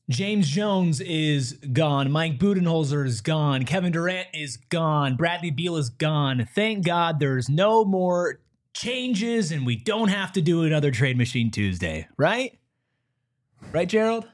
James Jones is gone. Mike Budenholzer is gone. Kevin Durant is gone. Bradley Beal is gone. Thank God there's no more changes and we don't have to do another Trade Machine Tuesday, right? Right, Gerald?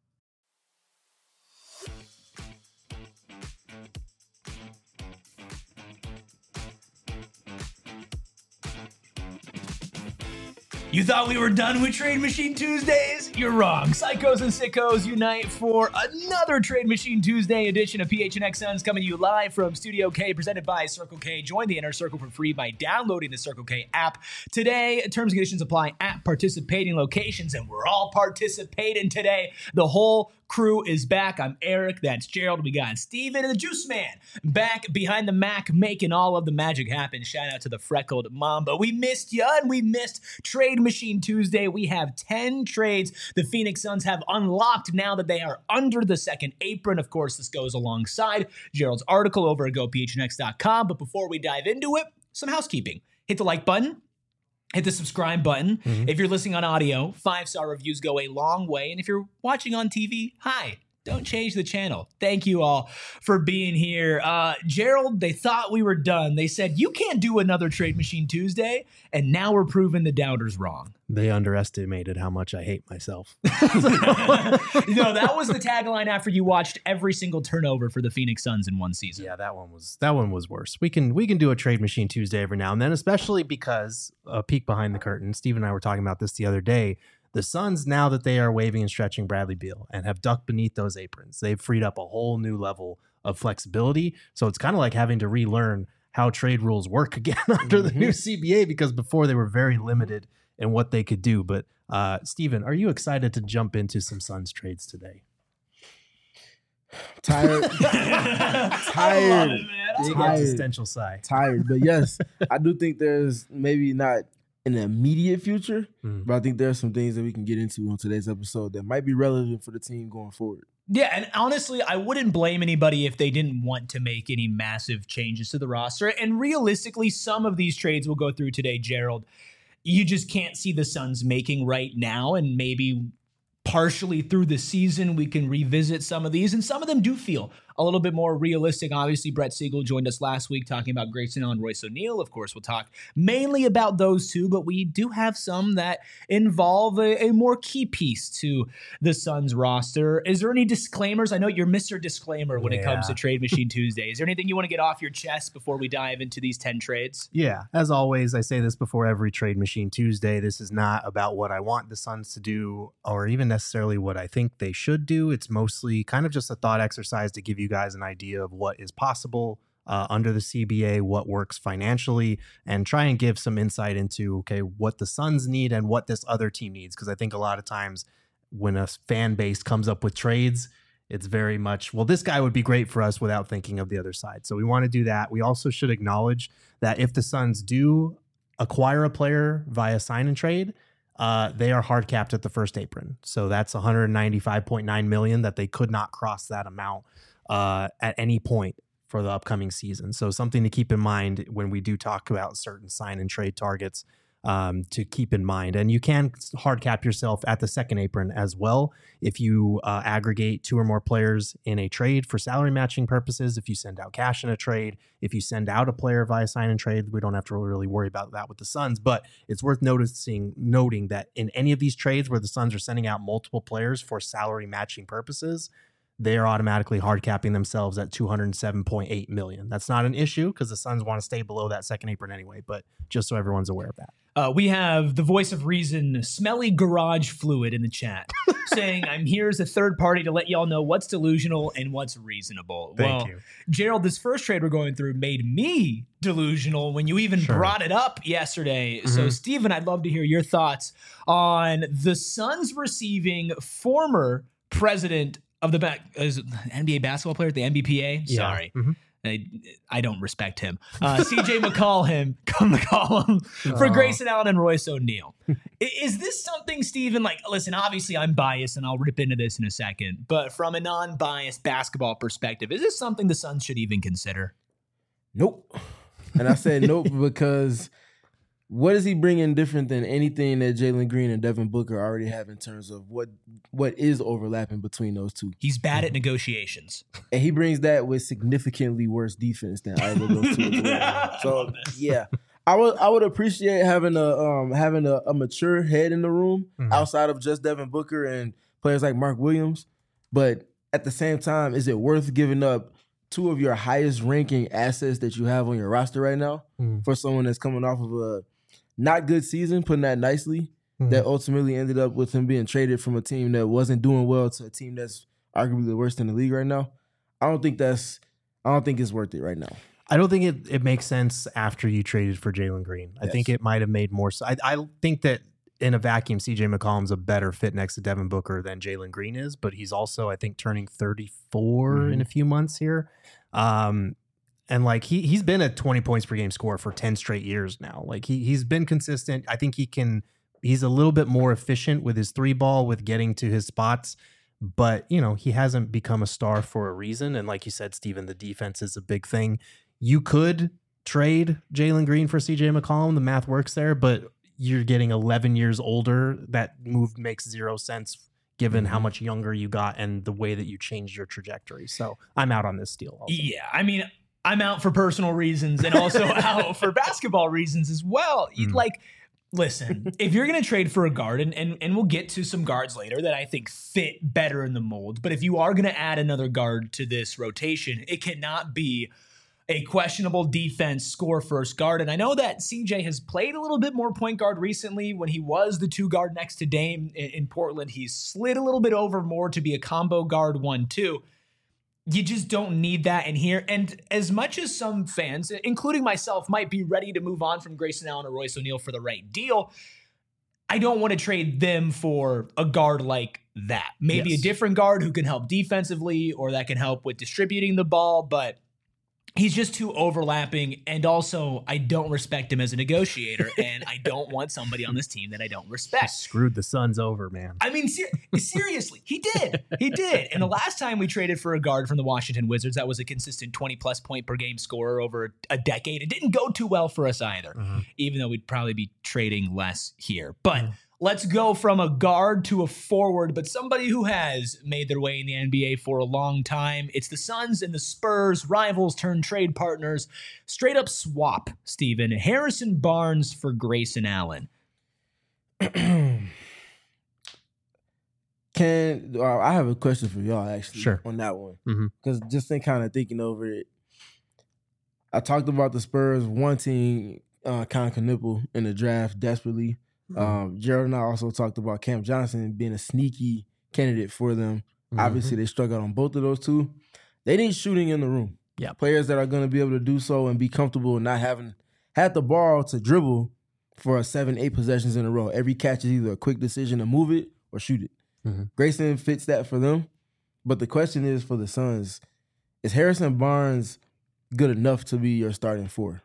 You thought we were done with Trade Machine Tuesdays? You're wrong. Psychos and sickos unite for another Trade Machine Tuesday edition of PHNX Suns coming to you live from Studio K, presented by Circle K. Join the Inner Circle for free by downloading the Circle K app. Today, terms and conditions apply at participating locations, and we're all participating today. The whole crew is back. I'm Eric. That's Gerald. We got Steven and the Juice Man back behind the Mac, making all of the magic happen. Shout out to the freckled Mamba. We missed you, and we missed Trade Machine Tuesday. We have 10 trades the Phoenix Suns have unlocked now that they are under the second apron. Of course, this goes alongside Gerald's article over at gophnx.com. But before we dive into it, some housekeeping. Hit the like button. Hit the subscribe button. If you're listening on audio, 5-star reviews go a long way. And if you're watching on TV, hi. Don't change the channel. Thank you all for being here. Gerald, they thought we were done. They said, you can't do another Trade Machine Tuesday. And now we're proving the doubters wrong. They underestimated how much I hate myself. No, that was the tagline after you watched every single turnover for the Phoenix Suns in one season. Yeah, that one was worse. We can do a Trade Machine Tuesday every now and then, especially because a peek behind the curtain. Steve and I were talking about this the other day. The Suns, now that they are waving and stretching Bradley Beal and have ducked beneath those aprons, they've freed up a whole new level of flexibility. So it's kind of like having to relearn how trade rules work again under the new CBA, because before they were very limited in what they could do. But Steven, are you excited to jump into some Suns trades today? Tired. I love it, man. Big existential sigh. Tired. But yes, I do think there's maybe not in the immediate future, but I think there are some things that we can get into on today's episode that might be relevant for the team going forward. Yeah, and honestly, I wouldn't blame anybody if they didn't want to make any massive changes to the roster. And realistically, some of these trades we'll go through today, Gerald, you just can't see the Suns making right now, and maybe partially through the season we can revisit some of these, and some of them do feel a little bit more realistic. Obviously, Brett Siegel joined us last week talking about Grayson Allen and Royce O'Neal. Of course, we'll talk mainly about those two, but we do have some that involve a more key piece to the Suns roster. Is there any disclaimers? I know you're Mr. Disclaimer when it comes to Trade Machine Tuesday. Is there anything you want to get off your chest before we dive into these 10 trades? Yeah, as always, I say this before every Trade Machine Tuesday. This is not about what I want the Suns to do or even necessarily what I think they should do. It's mostly kind of just a thought exercise to give you guys an idea of what is possible under the CBA, what works financially, and try and give some insight into, okay, what the Suns need and what this other team needs. Because I think a lot of times when a fan base comes up with trades, it's very much, well, this guy would be great for us without thinking of the other side. So we want to do that. We also should acknowledge that if the Suns do acquire a player via sign and trade, they are hard capped at the first apron. So that's $195.9 million that they could not cross that amount at any point for the upcoming season. So something to keep in mind when we do talk about certain sign and trade targets to keep in mind. And you can hard cap yourself at the second apron as well if you aggregate two or more players in a trade for salary matching purposes. If you send out cash in a trade, if you send out a player via sign and trade, we don't have to really worry about that with the Suns. But it's worth noting that in any of these trades where the Suns are sending out multiple players for salary matching purposes, they are automatically hard capping themselves at $207.8 million. That's not an issue because the Suns want to stay below that second apron anyway, but just so everyone's aware of that. We have the voice of reason, Smelly Garage Fluid, in the chat saying, I'm here as a third party to let y'all know what's delusional and what's reasonable. Thank you. Gerald, this first trade we're going through made me delusional when you even brought it up yesterday. So, Steven, I'd love to hear your thoughts on the Suns receiving former president of the NBA basketball player at the NBPA. Yeah. Sorry. I don't respect him. CJ McCollum, come to call him, for Grayson Allen and Royce O'Neal. Is this something, Steven, like, listen, obviously I'm biased and I'll rip into this in a second, but from a non-biased basketball perspective, is this something the Suns should even consider? Nope. And I said nope because What is he bringing different than anything that Jalen Green and Devin Booker already have in terms of what is overlapping between those two? He's bad at negotiations. And he brings that with significantly worse defense than either of those two. So, yeah. I would appreciate having a mature head in the room outside of just Devin Booker and players like Mark Williams. But at the same time, is it worth giving up two of your highest ranking assets that you have on your roster right now for someone that's coming off of a not good season, putting that nicely, that ultimately ended up with him being traded from a team that wasn't doing well to a team that's arguably the worst in the league right now? I don't think it's worth it right now. I don't think it makes sense after you traded for Jalen Green. I think it might have made more sense. I think that in a vacuum, CJ McCollum's a better fit next to Devin Booker than Jalen Green is, but he's also, I think, turning 34 in a few months here. And like he's been a 20 points per game scorer for 10 straight years now. Like he's been consistent. I think he's a little bit more efficient with his three ball, with getting to his spots. But, he hasn't become a star for a reason. And like you said, Steven, the defense is a big thing. You could trade Jalen Green for CJ McCollum. The math works there, but you're getting 11 years older. That move makes zero sense given how much younger you got and the way that you changed your trajectory. So I'm out on this deal also. Yeah, I mean, I'm out for personal reasons and also out for basketball reasons as well. Like, listen, if you're going to trade for a guard, and we'll get to some guards later that I think fit better in the mold, but if you are going to add another guard to this rotation, it cannot be a questionable defense score first guard. And I know that CJ has played a little bit more point guard recently. When he was the 2 guard next to Dame in Portland, he slid a little bit over more to be a combo guard 1-2. You just don't need that in here. And as much as some fans, including myself, might be ready to move on from Grayson Allen or Royce O'Neal for the right deal, I don't want to trade them for a guard like that. Maybe a different guard who can help defensively or that can help with distributing the ball, but he's just too overlapping, and also I don't respect him as a negotiator, and I don't want somebody on this team that I don't respect. He screwed the Suns over, man. I mean, seriously, he did. He did. And the last time we traded for a guard from the Washington Wizards, that was a consistent 20-plus point per game scorer over a decade. It didn't go too well for us either, even though we'd probably be trading less here. But let's go from a guard to a forward, but somebody who has made their way in the NBA for a long time. It's the Suns and the Spurs, rivals turned trade partners. Straight up swap, Steven. Harrison Barnes for Grayson Allen. I have a question for y'all, actually, on that one. Because just thinking over it, I talked about the Spurs wanting Con Knipple in the draft desperately. Gerald and I also talked about Cam Johnson being a sneaky candidate for them. Obviously, they struck out on both of those two. They need shooting in the room. Yeah, players that are going to be able to do so and be comfortable and not having had the ball to dribble for 7-8 possessions in a row. Every catch is either a quick decision to move it or shoot it. Grayson fits that for them. But the question is for the Suns, is Harrison Barnes good enough to be your starting four?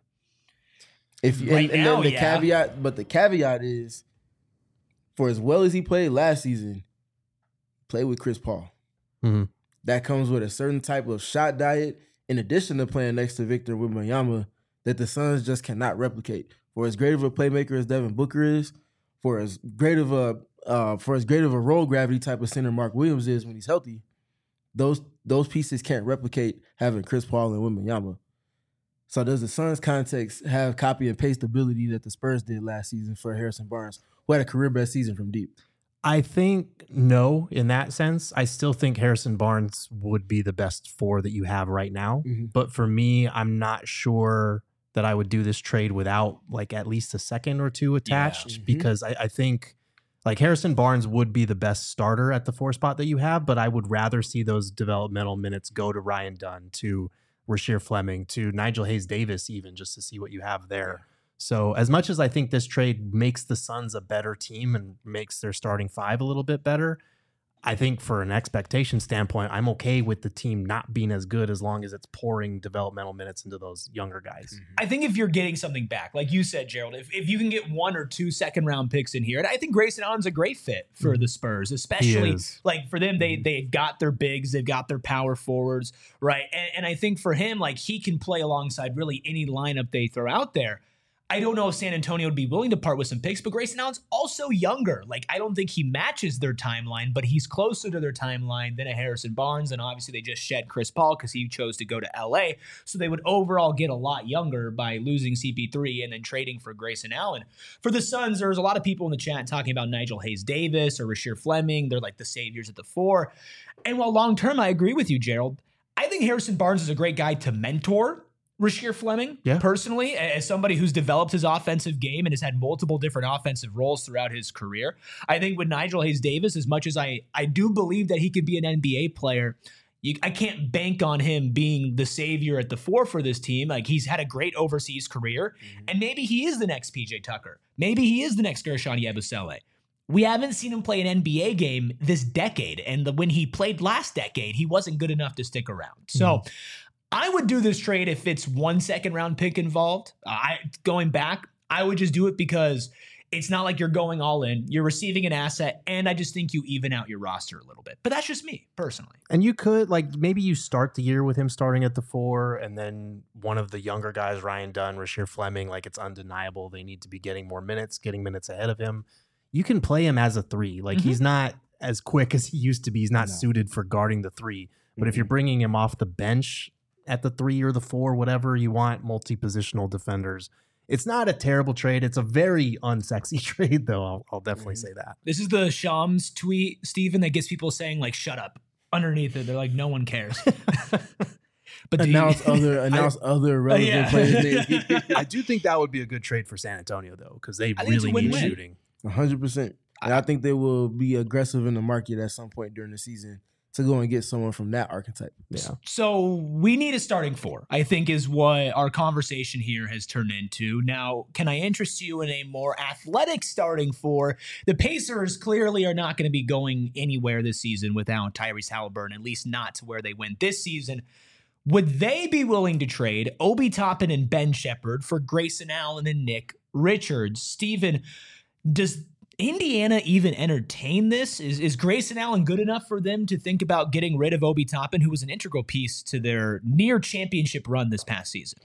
The caveat is, for as well as he played last season, play with Chris Paul. That comes with a certain type of shot diet, in addition to playing next to Victor Wembanyama, that the Suns just cannot replicate. For as great of a playmaker as Devin Booker is, for as great of a roll gravity type of center Mark Williams is when he's healthy, those pieces can't replicate having Chris Paul and Wembanyama. So does the Suns context have copy and paste ability that the Spurs did last season for Harrison Barnes, who had a career best season from deep? I think no, in that sense. I still think Harrison Barnes would be the best 4 that you have right now. But for me, I'm not sure that I would do this trade without like at least a second or two attached, because I think like Harrison Barnes would be the best starter at the 4 spot that you have, but I would rather see those developmental minutes go to Ryan Dunn, to Rasheer Fleming, to Nigel Hayes-Davis, even just to see what you have there. So as much as I think this trade makes the Suns a better team and makes their starting 5 a little bit better, I think for an expectation standpoint, I'm okay with the team not being as good as long as it's pouring developmental minutes into those younger guys. I think if you're getting something back, like you said, Gerald, if you can get 1 or 2 second-round picks in here, and I think Grayson Allen's a great fit for the Spurs, especially like for them, they've got their bigs, they've got their power forwards, right? And I think for him, like he can play alongside really any lineup they throw out there. I don't know if San Antonio would be willing to part with some picks, but Grayson Allen's also younger. Like, I don't think he matches their timeline, but he's closer to their timeline than a Harrison Barnes. And obviously they just shed Chris Paul because he chose to go to LA. So they would overall get a lot younger by losing CP3 and then trading for Grayson Allen. For the Suns, there's a lot of people in the chat talking about Nigel Hayes-Davis or Rasheer Fleming. They're like the saviors at the 4. And while long-term, I agree with you, Gerald, I think Harrison Barnes is a great guy to mentor Rasheer Fleming, personally, as somebody who's developed his offensive game and has had multiple different offensive roles throughout his career. I think with Nigel Hayes-Davis, as much as I do believe that he could be an NBA player, I can't bank on him being the savior at the 4 for this team. Like, he's had a great overseas career, and maybe he is the next PJ Tucker. Maybe he is the next Gershon Yabusele. We haven't seen him play an NBA game this decade, and when he played last decade, he wasn't good enough to stick around. So I would do this trade if it's 1 second-round pick involved. Going back, I would just do it because it's not like you're going all in. You're receiving an asset, and I just think you even out your roster a little bit. But that's just me, personally. And you could, like, maybe you start the year with him starting at the 4, and then one of the younger guys, Ryan Dunn, Rasheer Fleming, like, it's undeniable they need to be getting more minutes, getting minutes ahead of him. You can play him as a 3. Like, he's not as quick as he used to be. He's not suited for guarding the 3. But if you're bringing him off the bench at the 3 or the 4, whatever you want, multi-positional defenders, it's not a terrible trade. It's a very unsexy trade, though. I'll definitely say that. This is the Shams tweet, Steven, that gets people saying, like, shut up. Underneath it, they're like, no one cares. But announce other relevant players. I do think that would be a good trade for San Antonio, though, because they really need shooting. 100%. And I think they will be aggressive in the market at some point during the season to go and get someone from that archetype. Yeah. So we need a starting 4, I think, is what our conversation here has turned into. Now, can I interest you in a more athletic starting 4? The Pacers clearly are not going to be going anywhere this season without Tyrese Haliburton, at least not to where they went this season. Would they be willing to trade Obi Toppin and Ben Shepherd for Grayson Allen and Nick Richards? Steven, does Indiana even entertain this? Is Grayson Allen good enough for them to think about getting rid of Obi Toppin, who was an integral piece to their near championship run this past season?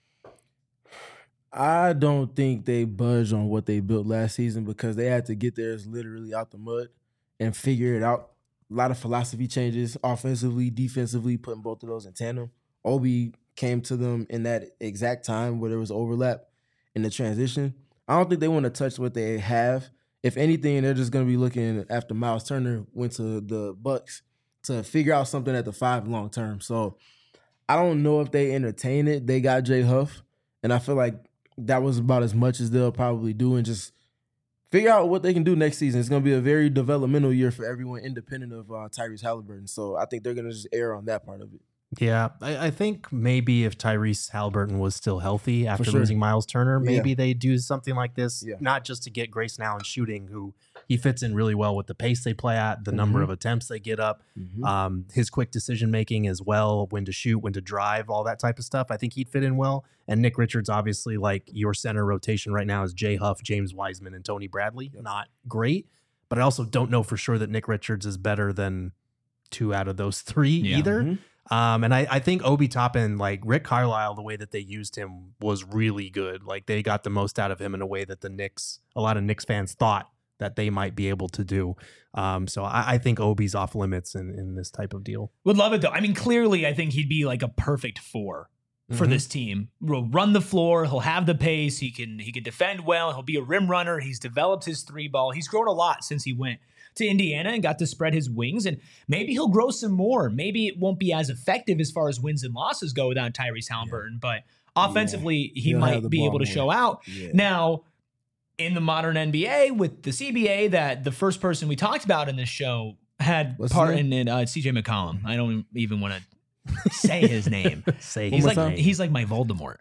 I don't think they budge on what they built last season because they had to get theirs literally out the mud and figure it out. A lot of philosophy changes, offensively, defensively, putting both of those in tandem. Obi came to them in that exact time where there was overlap in the transition. I don't think they want to touch what they have. If anything, they're just going to be looking after Miles Turner went to the Bucks to figure out something at the 5 long term. So I don't know if they entertain it. They got Jay Huff, and I feel like that was about as much as they'll probably do and just figure out what they can do next season. It's going to be a very developmental year for everyone independent of Tyrese Haliburton. So I think they're going to just err on that part of it. Yeah, I think maybe if Tyrese Haliburton was still healthy after losing Miles Turner, maybe they do something like this, not just to get Grayson Allen shooting, who he fits in really well with the pace they play at, the number of attempts they get up, his quick decision-making as well, when to shoot, when to drive, all that type of stuff. I think he'd fit in well. And Nick Richards, obviously, like your center rotation right now is Jay Huff, James Wiseman, and Tony Bradley. Not great, but I also don't know for sure that Nick Richards is better than 2 out of those 3 either. And I think Obi Toppin, like Rick Carlisle, the way that they used him was really good. Like they got the most out of him in a way that a lot of Knicks fans thought that they might be able to do. So I think Obi's off limits in this type of deal. Would love it though. I mean, clearly I think he'd be like a perfect 4 for this team. He'll run the floor. He'll have the pace. He can defend well. He'll be a rim runner. He's developed his 3-ball. He's grown a lot since he went to Indiana and got to spread his wings, and maybe he'll grow some more. Maybe it won't be as effective as far as wins and losses go without Tyrese Haliburton, but offensively he might be able to show out. Now, in the modern NBA with the CBA, that the first person we talked about in this show had part in it, CJ McCollum. I don't even want to say his name. He's like my Voldemort.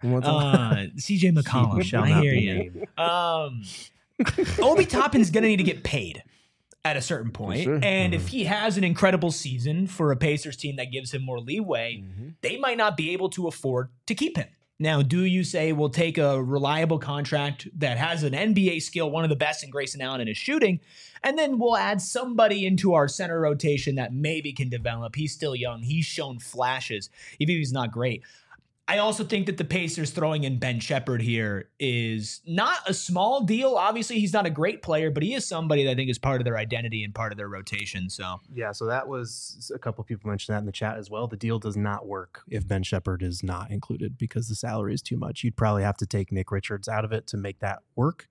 CJ McCollum. I hear you. Obi Toppin's gonna need to get paid at a certain point. And if he has an incredible season for a Pacers team that gives him more leeway, they might not be able to afford to keep him. Now, do you say we'll take a reliable contract that has an NBA skill, one of the best in Grayson Allen in his shooting, and then we'll add somebody into our center rotation that maybe can develop? He's still young. He's shown flashes, even if he's not great. I also think that the Pacers throwing in Ben Sheppard here is not a small deal. Obviously, he's not a great player, but he is somebody that I think is part of their identity and part of their rotation. So yeah, so that was a couple of people mentioned that in the chat as well. The deal does not work if Ben Sheppard is not included because the salary is too much. You'd probably have to take Nick Richards out of it to make that work.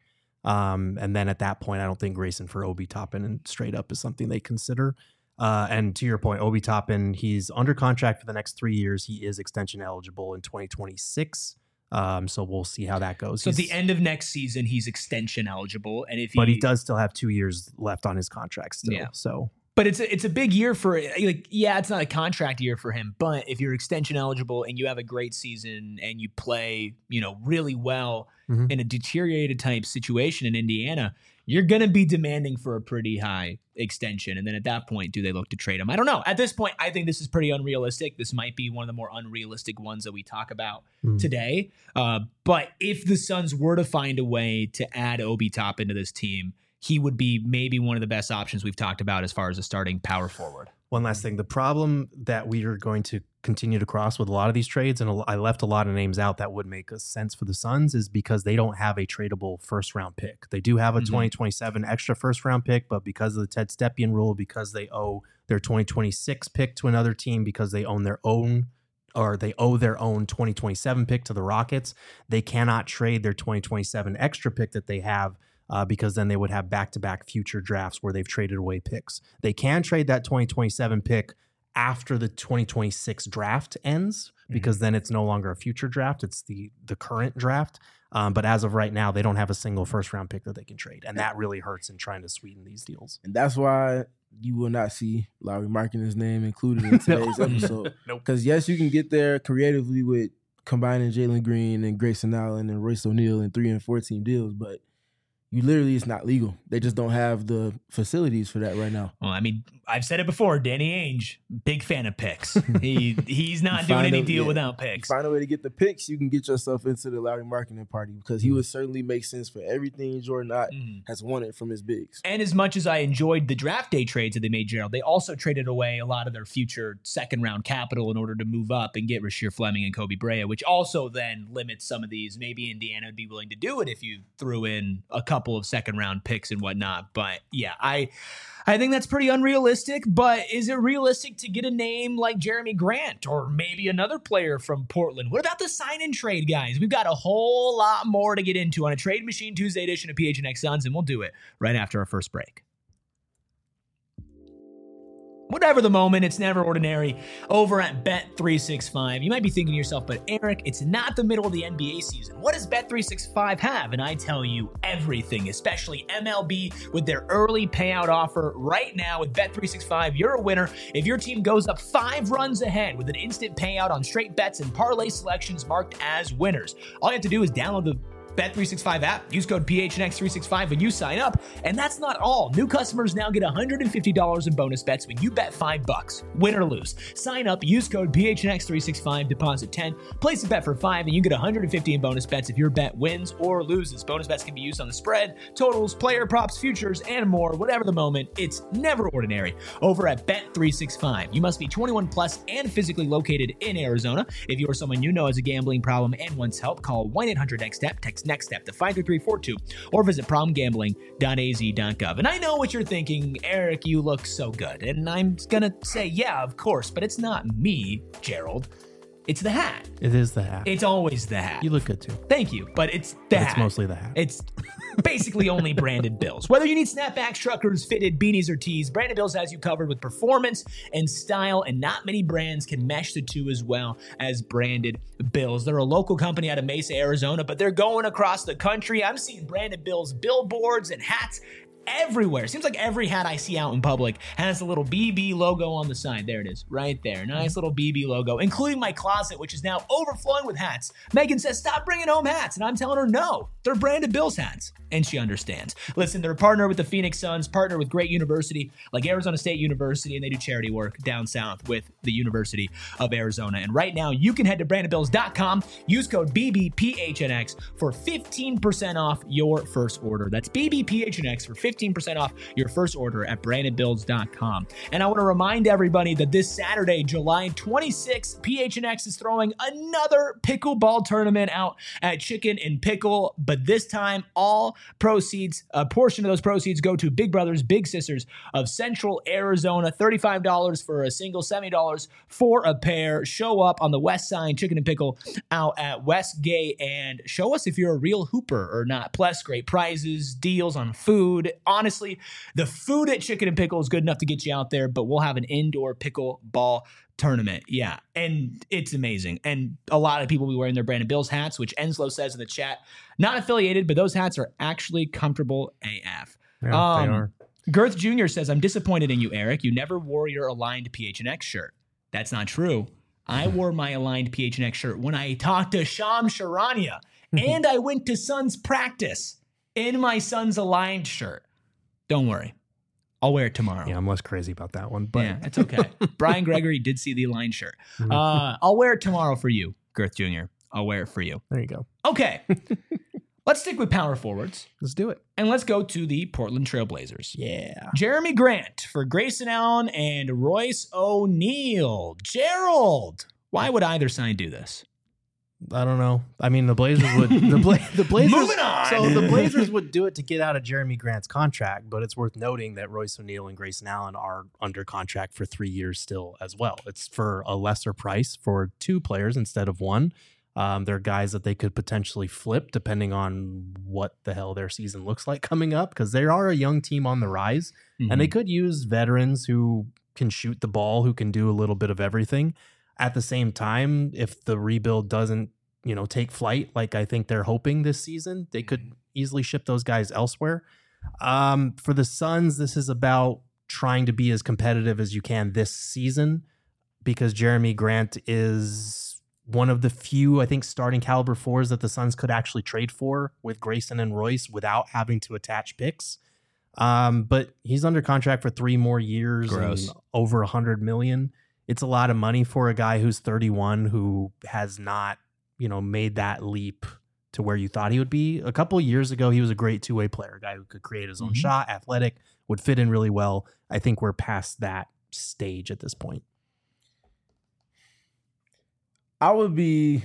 And then at that point, I don't think Grayson for Obi Toppin and straight up is something they consider. And to your point, Obi Toppin, he's under contract for the next 3 years. He is extension eligible in 2026. So we'll see how that goes. So at the end of next season, he's extension eligible, and but he does still have 2 years left on his contract still. Yeah. So, but it's a big year for it's not a contract year for him. But if you're extension eligible and you have a great season and you play really well in a deteriorated type situation in Indiana, you're going to be demanding for a pretty high extension. And then at that point, do they look to trade him? I don't know. At this point, I think this is pretty unrealistic. This might be one of the more unrealistic ones that we talk about today. But if the Suns were to find a way to add Obi Toppin to this team, he would be maybe one of the best options we've talked about as far as a starting power forward. One last thing. The problem that we are going to continue to cross with a lot of these trades, and I left a lot of names out that would make sense for the Suns, is because they don't have a tradable first-round pick. They do have a 2027 extra first-round pick, but because of the Ted Stepien rule, because they owe their 2026 pick to another team, because they own their own or they owe their own 2027 pick to the Rockets, they cannot trade their 2027 extra pick that they have because then they would have back-to-back future drafts where they've traded away picks. They can trade that 2027 pick after the 2026 draft ends because then it's no longer a future draft. It's the current draft. But as of right now, they don't have a single first-round pick that they can trade, and that really hurts in trying to sweeten these deals. And that's why you will not see Lauri Markkanen's name included in today's episode. Because, yes, you can get there creatively with combining Jalen Green and Grayson Allen and Royce O'Neal in 3 and 4 team deals, but it's not legal. They just don't have the facilities for that right now. Well, I mean, I've said it before. Danny Ainge, big fan of picks. He's not doing any deal without picks. Find a way to get the picks, you can get yourself into the Lauri Markkanen party because he would certainly make sense for everything Jordan Ott has wanted from his bigs. And as much as I enjoyed the draft day trades that they made, Gerald, they also traded away a lot of their future second-round capital in order to move up and get Rasheer Fleming and Kobe Brea, which also then limits some of these. Maybe Indiana would be willing to do it if you threw in a couple of second-round picks and whatnot. But yeah, I think that's pretty unrealistic, but is it realistic to get a name like Jeremy Grant or maybe another player from Portland? What about the sign and trade, guys? We've got a whole lot more to get into on a Trade Machine Tuesday edition of PHNX Suns, and we'll do it right after our first break. Whatever the moment, it's never ordinary over at Bet365. You might be thinking to yourself, but Eric, it's not the middle of the NBA season. What does Bet365 have? And I tell you everything, especially MLB with their early payout offer right now with Bet365. You're a winner if your team goes up 5 runs ahead with an instant payout on straight bets and parlay selections marked as winners. All you have to do is download the Bet365 app. Use code PHNX365 when you sign up. And that's not all. New customers now get $150 in bonus bets when you bet $5, win or lose. Sign up, use code PHNX365, deposit 10, place a bet for $5, and you get $150 in bonus bets if your bet wins or loses. Bonus bets can be used on the spread, totals, player props, futures, and more. Whatever the moment, it's never ordinary over at Bet365. You must be 21 plus and physically located in Arizona. If you or someone you know has a gambling problem and wants help, call 1-800-NEXT-STEP, text Next Step to 53342 or visit problemgambling.az.gov. And I know what you're thinking, Eric, you look so good. And I'm going to say, yeah, of course, but it's not me, Gerald. It's the hat. It is the hat. It's always the hat. You look good too. Thank you, but it's the hat. It's mostly the hat. It's basically only Branded Bills. Whether you need snapbacks, truckers, fitted, beanies, or tees, Branded Bills has you covered with performance and style, and not many brands can mesh the two as well as Branded Bills. They're a local company out of Mesa, Arizona, but they're going across the country. I'm seeing Branded Bills billboards and hats everywhere. Seems like every hat I see out in public has a little BB logo on the side. There it is, right there. Nice little BB logo, including my closet, which is now overflowing with hats. Megan says, stop bringing home hats. And I'm telling her, no, they're Branded Bills hats. And she understands. Listen, they're a partner with the Phoenix Suns, partner with great university like Arizona State University, and they do charity work down south with the University of Arizona. And right now, you can head to brandedbills.com, use code BBPHNX for 15% off your first order. That's BBPHNX for 15% 15% off your first order at brandonbuilds.com. And I want to remind everybody that this Saturday, July 26th, PHNX is throwing another pickleball tournament out at Chicken and Pickle, but this time all proceeds, a portion of those proceeds go to Big Brothers Big Sisters of Central Arizona. $35 for a single, $70 for a pair. Show up on the west side, Chicken and Pickle out at Westgate, and show us if you're a real hooper or not. Plus, great prizes, deals on food. Honestly, the food at Chicken and Pickle is good enough to get you out there, but we'll have an indoor pickleball tournament. Yeah, and it's amazing. And a lot of people will be wearing their Brandon Bills hats, which Enslow says in the chat, not affiliated, but those hats are actually comfortable AF. Yeah, they are. Girth Jr. says, I'm disappointed in you, Eric. You never wore your aligned PHNX shirt. That's not true. I wore my aligned PHNX shirt when I talked to Sham Charania, and I went to Suns practice in my Suns aligned shirt. Don't worry. I'll wear it tomorrow. Yeah, I'm less crazy about that one. But yeah, it's okay. Brian Gregory did see the aligned shirt. I'll wear it tomorrow for you, Girth Jr. I'll wear it for you. There you go. Okay. Let's stick with power forwards. Let's do it. And let's go to the Portland Trailblazers. Yeah. Jeremy Grant for Grayson Allen and Royce O'Neal. Gerald, why would either side do this? I don't know. I mean, the Blazers would. The Blazers. Moving on. So the Blazers would do it to get out of Jeremy Grant's contract, but it's worth noting that Royce O'Neal and Grayson Allen are under contract for 3 years still as well. It's for a lesser price for 2 players instead of 1. They're guys that they could potentially flip depending on what the hell their season looks like coming up, because they are a young team on the rise, and they could use veterans who can shoot the ball, who can do a little bit of everything. At the same time, if the rebuild doesn't, take flight like I think they're hoping this season, they could easily ship those guys elsewhere. For the Suns, this is about trying to be as competitive as you can this season, because Jeremy Grant is one of the few, I think, starting caliber 4s that the Suns could actually trade for with Grayson and Royce without having to attach picks. But he's under contract for 3 more years. Gross. And over $100 million. It's a lot of money for a guy who's 31 who has not, made that leap to where you thought he would be. A couple of years ago, he was a great 2-way player, a guy who could create his own shot, athletic, would fit in really well. I think we're past that stage at this point. I would be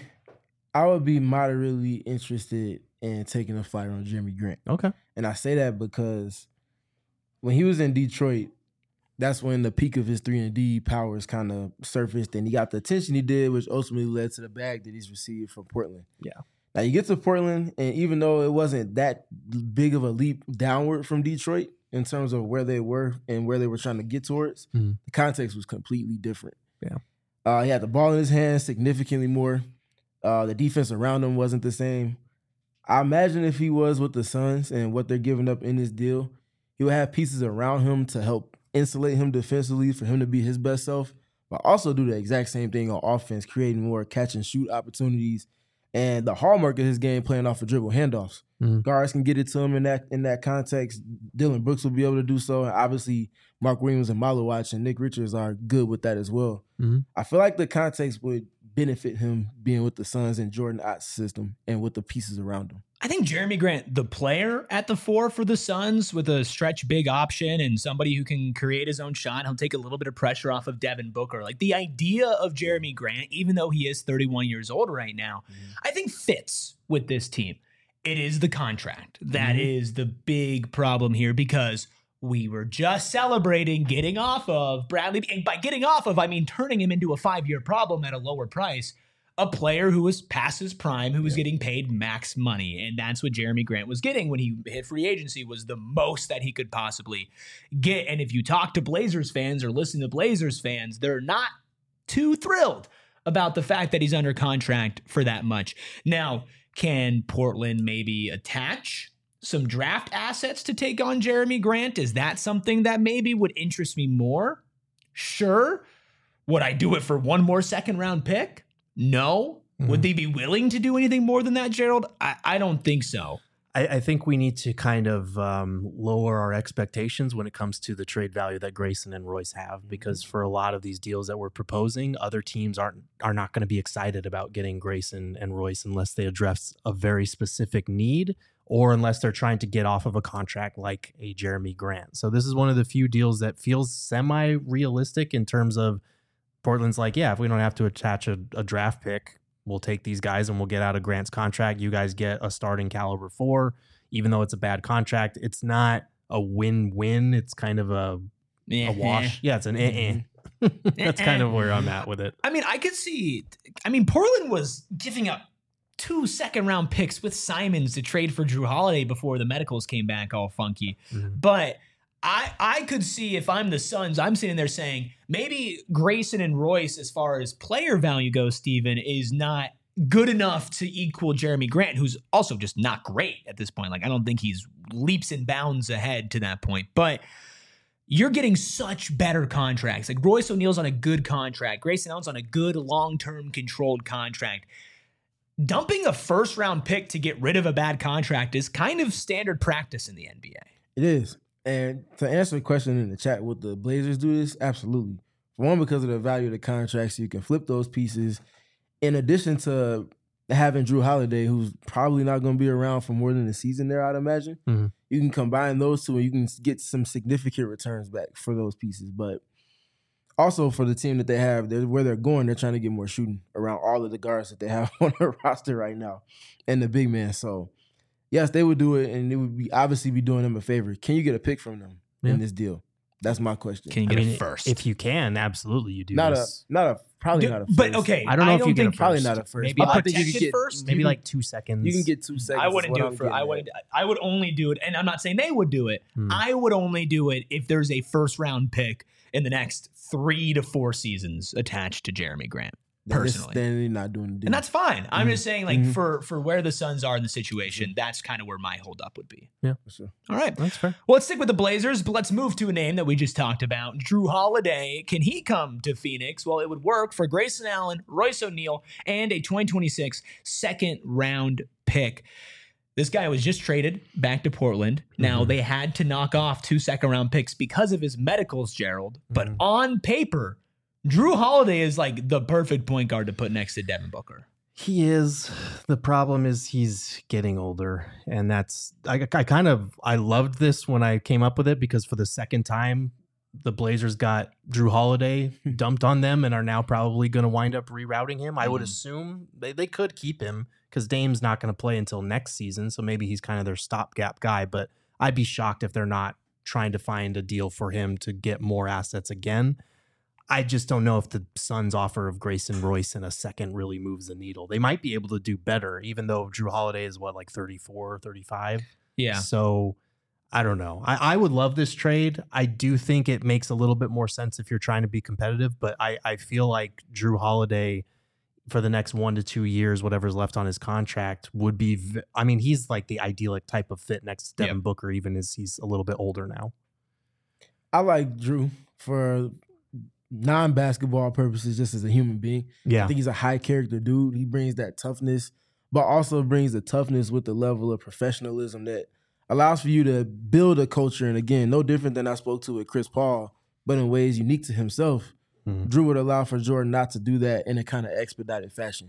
moderately interested in taking a flyer on Jeremy Grant. Okay. And I say that because when he was in Detroit, that's when the peak of his 3-and-D powers kind of surfaced, and he got the attention he did, which ultimately led to the bag that he's received from Portland. Yeah. Now, you get to Portland, and even though it wasn't that big of a leap downward from Detroit in terms of where they were and where they were trying to get towards, the context was completely different. Yeah. He had the ball in his hands significantly more. The defense around him wasn't the same. I imagine if he was with the Suns and what they're giving up in this deal, he would have pieces around him to help insulate him defensively for him to be his best self, but also do the exact same thing on offense, creating more catch-and-shoot opportunities. And the hallmark of his game, playing off of dribble handoffs. Guards can get it to him in that context. Dylan Brooks will be able to do so. And obviously, Mark Williams and Malowach and Nick Richards are good with that as well. I feel like the context would benefit him being with the Suns and Jordan Ott's system and with the pieces around him. I think Jeremy Grant, the player at the 4 for the Suns with a stretch big option and somebody who can create his own shot, he'll take a little bit of pressure off of Devin Booker. Like the idea of Jeremy Grant, even though he is 31 years old right now, I think fits with this team. It is the contract. That is the big problem here, because we were just celebrating getting off of Bradley. And by getting off of, I mean turning him into a 5-year problem at a lower price. A player who was past his prime, who was getting paid max money. And that's what Jeremy Grant was getting when he hit free agency, was the most that he could possibly get. And if you talk to Blazers fans or listen to Blazers fans, they're not too thrilled about the fact that he's under contract for that much. Now, can Portland maybe attach some draft assets to take on Jeremy Grant? Is that something that maybe would interest me more? Sure. Would I do it for one more second-round pick? No. Would they be willing to do anything more than that, Gerald? I don't think so. I think we need to kind of lower our expectations when it comes to the trade value that Grayson and Royce have, because for a lot of these deals that we're proposing, other teams are not going to be excited about getting Grayson and Royce unless they address a very specific need or unless they're trying to get off of a contract like a Jeremy Grant. So this is one of the few deals that feels semi-realistic in terms of Portland's like, yeah, if we don't have to attach a draft pick, we'll take these guys and we'll get out of Grant's contract. You guys get a starting caliber 4, even though it's a bad contract. It's not a win-win. It's kind of a wash. Yeah, it's an That's kind of where I'm at with it. I mean, I could see, Portland was giving up 2 second-round picks with Simons to trade for Jrue Holiday before the medicals came back all funky. Mm-hmm. But I could see, if I'm the Suns, I'm sitting there saying maybe Grayson and Royce, as far as player value goes, Steven, is not good enough to equal Jeremy Grant, who's also just not great at this point. Like, I don't think he's leaps and bounds ahead to that point. But you're getting such better contracts. Like, Royce O'Neal's on a good contract. Grayson Allen's on a good long-term controlled contract. Dumping a first-round pick to get rid of a bad contract is kind of standard practice in the NBA. It is. And to answer the question in the chat, would the Blazers do this? Absolutely. For one, because of the value of the contracts, you can flip those pieces. In addition to having Jrue Holiday, who's probably not going to be around for more than a season there, I'd imagine, you can combine those two and you can get some significant returns back for those pieces. But also for the team that they have, where they're going, they're trying to get more shooting around all of the guards that they have on their roster right now and the big man. So, yes, they would do it, and it would obviously be doing them a favor. Can you get a pick from them in this deal? That's my question. Can you get it first? If you can, absolutely you do. Probably not a first. But okay, I don't know if you get a first. Probably not a first. Maybe I think you get first. Maybe like 2 seconds. You can get 2 seconds. I wouldn't do it for. I would only do it, and I'm not saying they would do it. I would only do it if there's a first round pick in the next 3 to 4 seasons attached to Jeremy Grant. Personally, then you're not doing the deal. And that's fine. I'm just saying, like, for where the Suns are in the situation, that's kind of where my holdup would be. Yeah, for sure. All right, that's fair. Well, let's stick with the Blazers, but let's move to a name that we just talked about, Jrue Holiday. Can he come to Phoenix? Well, it would work for Grayson Allen, Royce O'Neal, and a 2026 second-round pick. This guy was just traded back to Portland. Now, they had to knock off 2 second-round picks because of his medicals, Gerald. But on paper, Jrue Holiday is like the perfect point guard to put next to Devin Booker. He is. The problem is he's getting older. And that's, I loved this when I came up with it, because for the second time, the Blazers got Jrue Holiday dumped on them and are now probably going to wind up rerouting him. I would assume they could keep him because Dame's not going to play until next season. So maybe he's kind of their stopgap guy, but I'd be shocked if they're not trying to find a deal for him to get more assets again. I just don't know if the Suns' offer of Grayson Royce in a second really moves the needle. They might be able to do better, even though Jrue Holiday is, 34, 35? Yeah. So I don't know. I would love this trade. I do think it makes a little bit more sense if you're trying to be competitive, but I feel like Jrue Holiday for the next 1 to 2 years, whatever's left on his contract, would be, he's like the idyllic type of fit next to Devin Booker, even as he's a little bit older now. I like Jrue for non-basketball purposes, just as a human being. Yeah. I think he's a high character dude. He brings that toughness, but also brings the toughness with the level of professionalism that allows for you to build a culture. And again, no different than I spoke to with Chris Paul, but in ways unique to himself. Jrue would allow for Jordan not to do that in a kind of expedited fashion.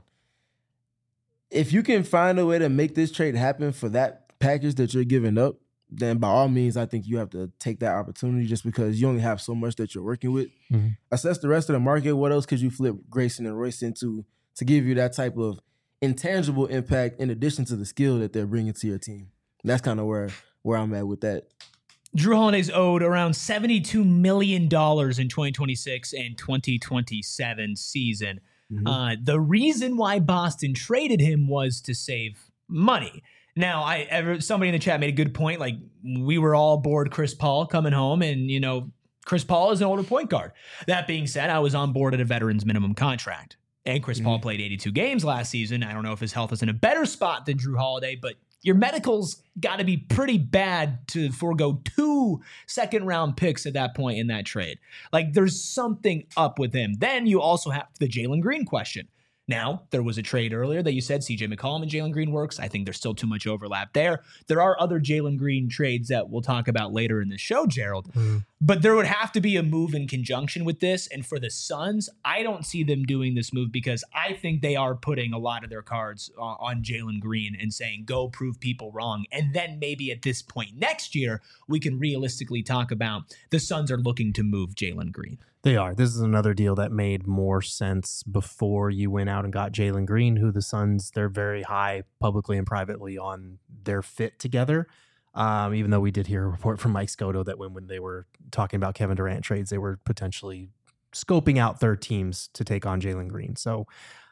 If you can find a way to make this trade happen for that package that you're giving up, then by all means, I think you have to take that opportunity, just because you only have so much that you're working with. Assess the rest of the market. What else could you flip Grayson and Royce into to give you that type of intangible impact in addition to the skill that they're bringing to your team? And that's kind of where I'm at with that. Jrue Holiday's owed around $72 million in 2026 and 2027 season. The reason why Boston traded him was to save money. Now, somebody in the chat made a good point. Like, we were all bored Chris Paul coming home, and, Chris Paul is an older point guard. That being said, I was on board at a veteran's minimum contract. And Chris Paul played 82 games last season. I don't know if his health is in a better spot than Jrue Holiday, but your medicals got to be pretty bad to forego 2 second-round picks at that point in that trade. Like, there's something up with him. Then you also have the Jalen Green question. Now, there was a trade earlier that you said CJ McCollum and Jalen Green works. I think there's still too much overlap there. There are other Jalen Green trades that we'll talk about later in the show, Gerald. But there would have to be a move in conjunction with this. And for the Suns, I don't see them doing this move because I think they are putting a lot of their cards on Jalen Green and saying, go prove people wrong. And then maybe at this point next year, we can realistically talk about the Suns are looking to move Jalen Green. They are. This is another deal that made more sense before you went out and got Jalen Green, who the Suns, they're very high publicly and privately on their fit together. Even though we did hear a report from Mike Scotto that when they were talking about Kevin Durant trades, they were potentially scoping out third teams to take on Jalen Green. So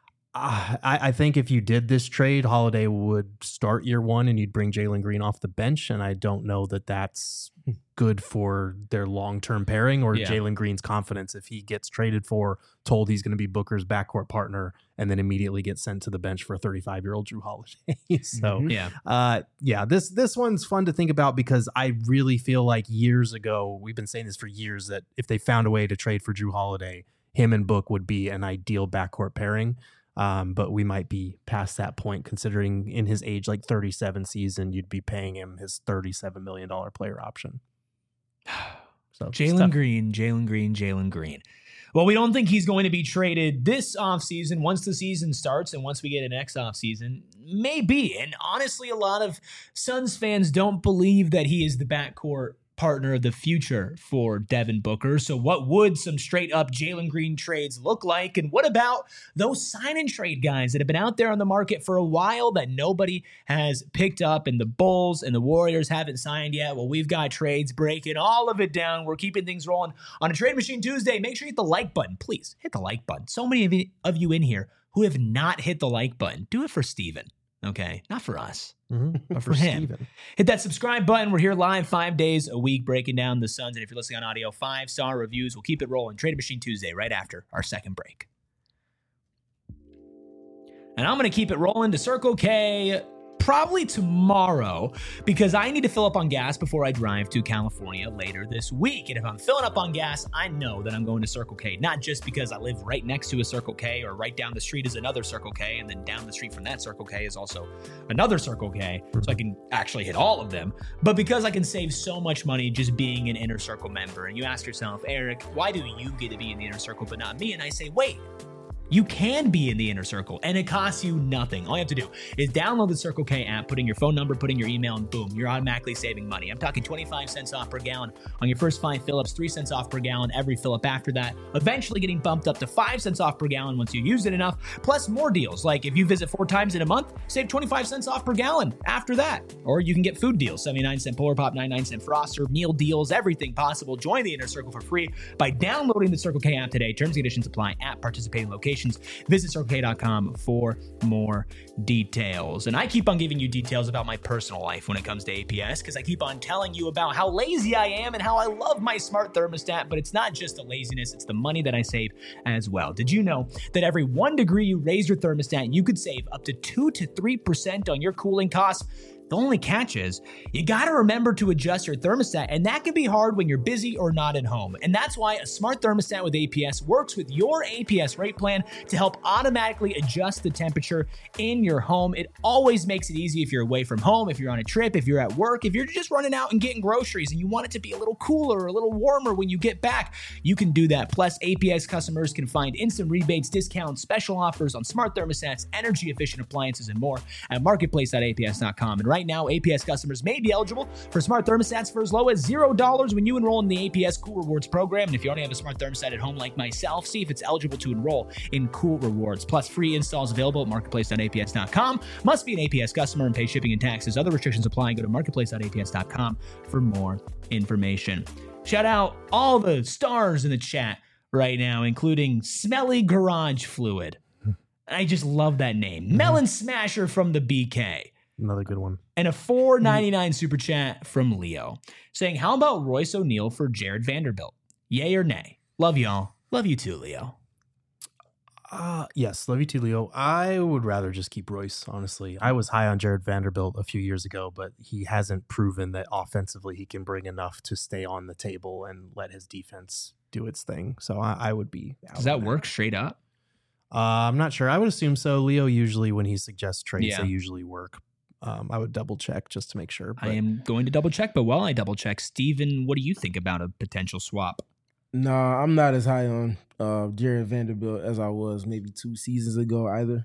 I think if you did this trade, Holiday would start year one and you'd bring Jalen Green off the bench. And I don't know that that's good for their long-term pairing or Jalen Green's confidence if he gets traded for, told he's going to be Booker's backcourt partner, and then immediately gets sent to the bench for a 35-year-old Jrue Holiday. So, this one's fun to think about because I really feel like years ago, we've been saying this for years, that if they found a way to trade for Jrue Holiday, him and Book would be an ideal backcourt pairing. But we might be past that point, considering in his age, like 37 season, you'd be paying him his $37 million player option. So Jalen Green. Well, we don't think he's going to be traded this offseason. Once the season starts and once we get a next offseason, maybe. And honestly, a lot of Suns fans don't believe that he is the backcourt partner of the future for Devin Booker. So what would some straight up Jalen Green trades look like? And what about those sign and trade guys that have been out there on the market for a while that nobody has picked up, and the Bulls and the Warriors haven't signed yet? Well, we've got trades, breaking all of it down. We're keeping things rolling on a Trade Machine Tuesday. Make sure you hit the like button. Please hit the like button. So many of you in here who have not hit the like button. Do it for Steven. Okay, not for us, but for him. Steven. Hit that subscribe button. We're here live 5 days a week breaking down the Suns. And if you're listening on audio, 5-star reviews. We'll keep it rolling. Trade Machine Tuesday right after our second break. And I'm going to keep it rolling to Circle K probably tomorrow because I need to fill up on gas before I drive to California later this week. And if I'm filling up on gas, I know that I'm going to Circle K, not just because I live right next to a Circle K or right down the street is another Circle K, and then down the street from that Circle K is also another Circle K, so I can actually hit all of them, but because I can save so much money just being an Inner Circle member. And you ask yourself, Eric, why do you get to be in the Inner Circle but not me? And I say, wait, you can be in the Inner Circle, and it costs you nothing. All you have to do is download the Circle K app, put in your phone number, put in your email, and boom, you're automatically saving money. I'm talking 25 cents off per gallon on your first 5 fill-ups, 3 cents off per gallon every fill-up after that, eventually getting bumped up to 5 cents off per gallon once you use it enough, plus more deals. Like if you visit 4 times in a month, save 25 cents off per gallon after that. Or you can get food deals, 79-cent Polar Pop, 99-cent Froster, meal deals, everything possible. Join the Inner Circle for free by downloading the Circle K app today. Terms and conditions apply at participating locations. Visit CircleK.com for more details. And I keep on giving you details about my personal life when it comes to APS because I keep on telling you about how lazy I am and how I love my smart thermostat, but it's not just the laziness, it's the money that I save as well. Did you know that every 1 degree you raise your thermostat, you could save up to 2 to 3% on your cooling costs? The only catch is you got to remember to adjust your thermostat, and that can be hard when you're busy or not at home. And that's why a smart thermostat with APS works with your APS rate plan to help automatically adjust the temperature in your home. It always makes it easy if you're away from home, if you're on a trip, if you're at work, if you're just running out and getting groceries and you want it to be a little cooler or a little warmer when you get back, you can do that. Plus, APS customers can find instant rebates, discounts, special offers on smart thermostats, energy efficient appliances, and more at marketplace.aps.com. And right now, APS customers may be eligible for smart thermostats for as low as $0 when you enroll in the APS Cool Rewards program. And if you already have a smart thermostat at home like myself, see if it's eligible to enroll in Cool Rewards. Plus, free installs available at marketplace.aps.com. Must be an APS customer and pay shipping and taxes. Other restrictions apply. Go to marketplace.aps.com for more information. Shout out all the stars in the chat right now, including Smelly Garage Fluid. I just love that name. Melon Smasher from the BK. Another good one. And a $4.99 super chat from Leo saying, how about Royce O'Neal for Jared Vanderbilt? Yay or nay? Love y'all. Love you too, Leo. Yes, love you too, Leo. I would rather just keep Royce, honestly. I was high on Jared Vanderbilt a few years ago, but he hasn't proven that offensively he can bring enough to stay on the table and let his defense do its thing. So I would be out. Does that work straight up? I'm not sure. I would assume so. Leo usually, when he suggests trades, they usually work. I would double check just to make sure. I am going to double check, but while I double check, Steven, what do you think about a potential swap? No, I'm not as high on Jared Vanderbilt as I was maybe 2 seasons ago either.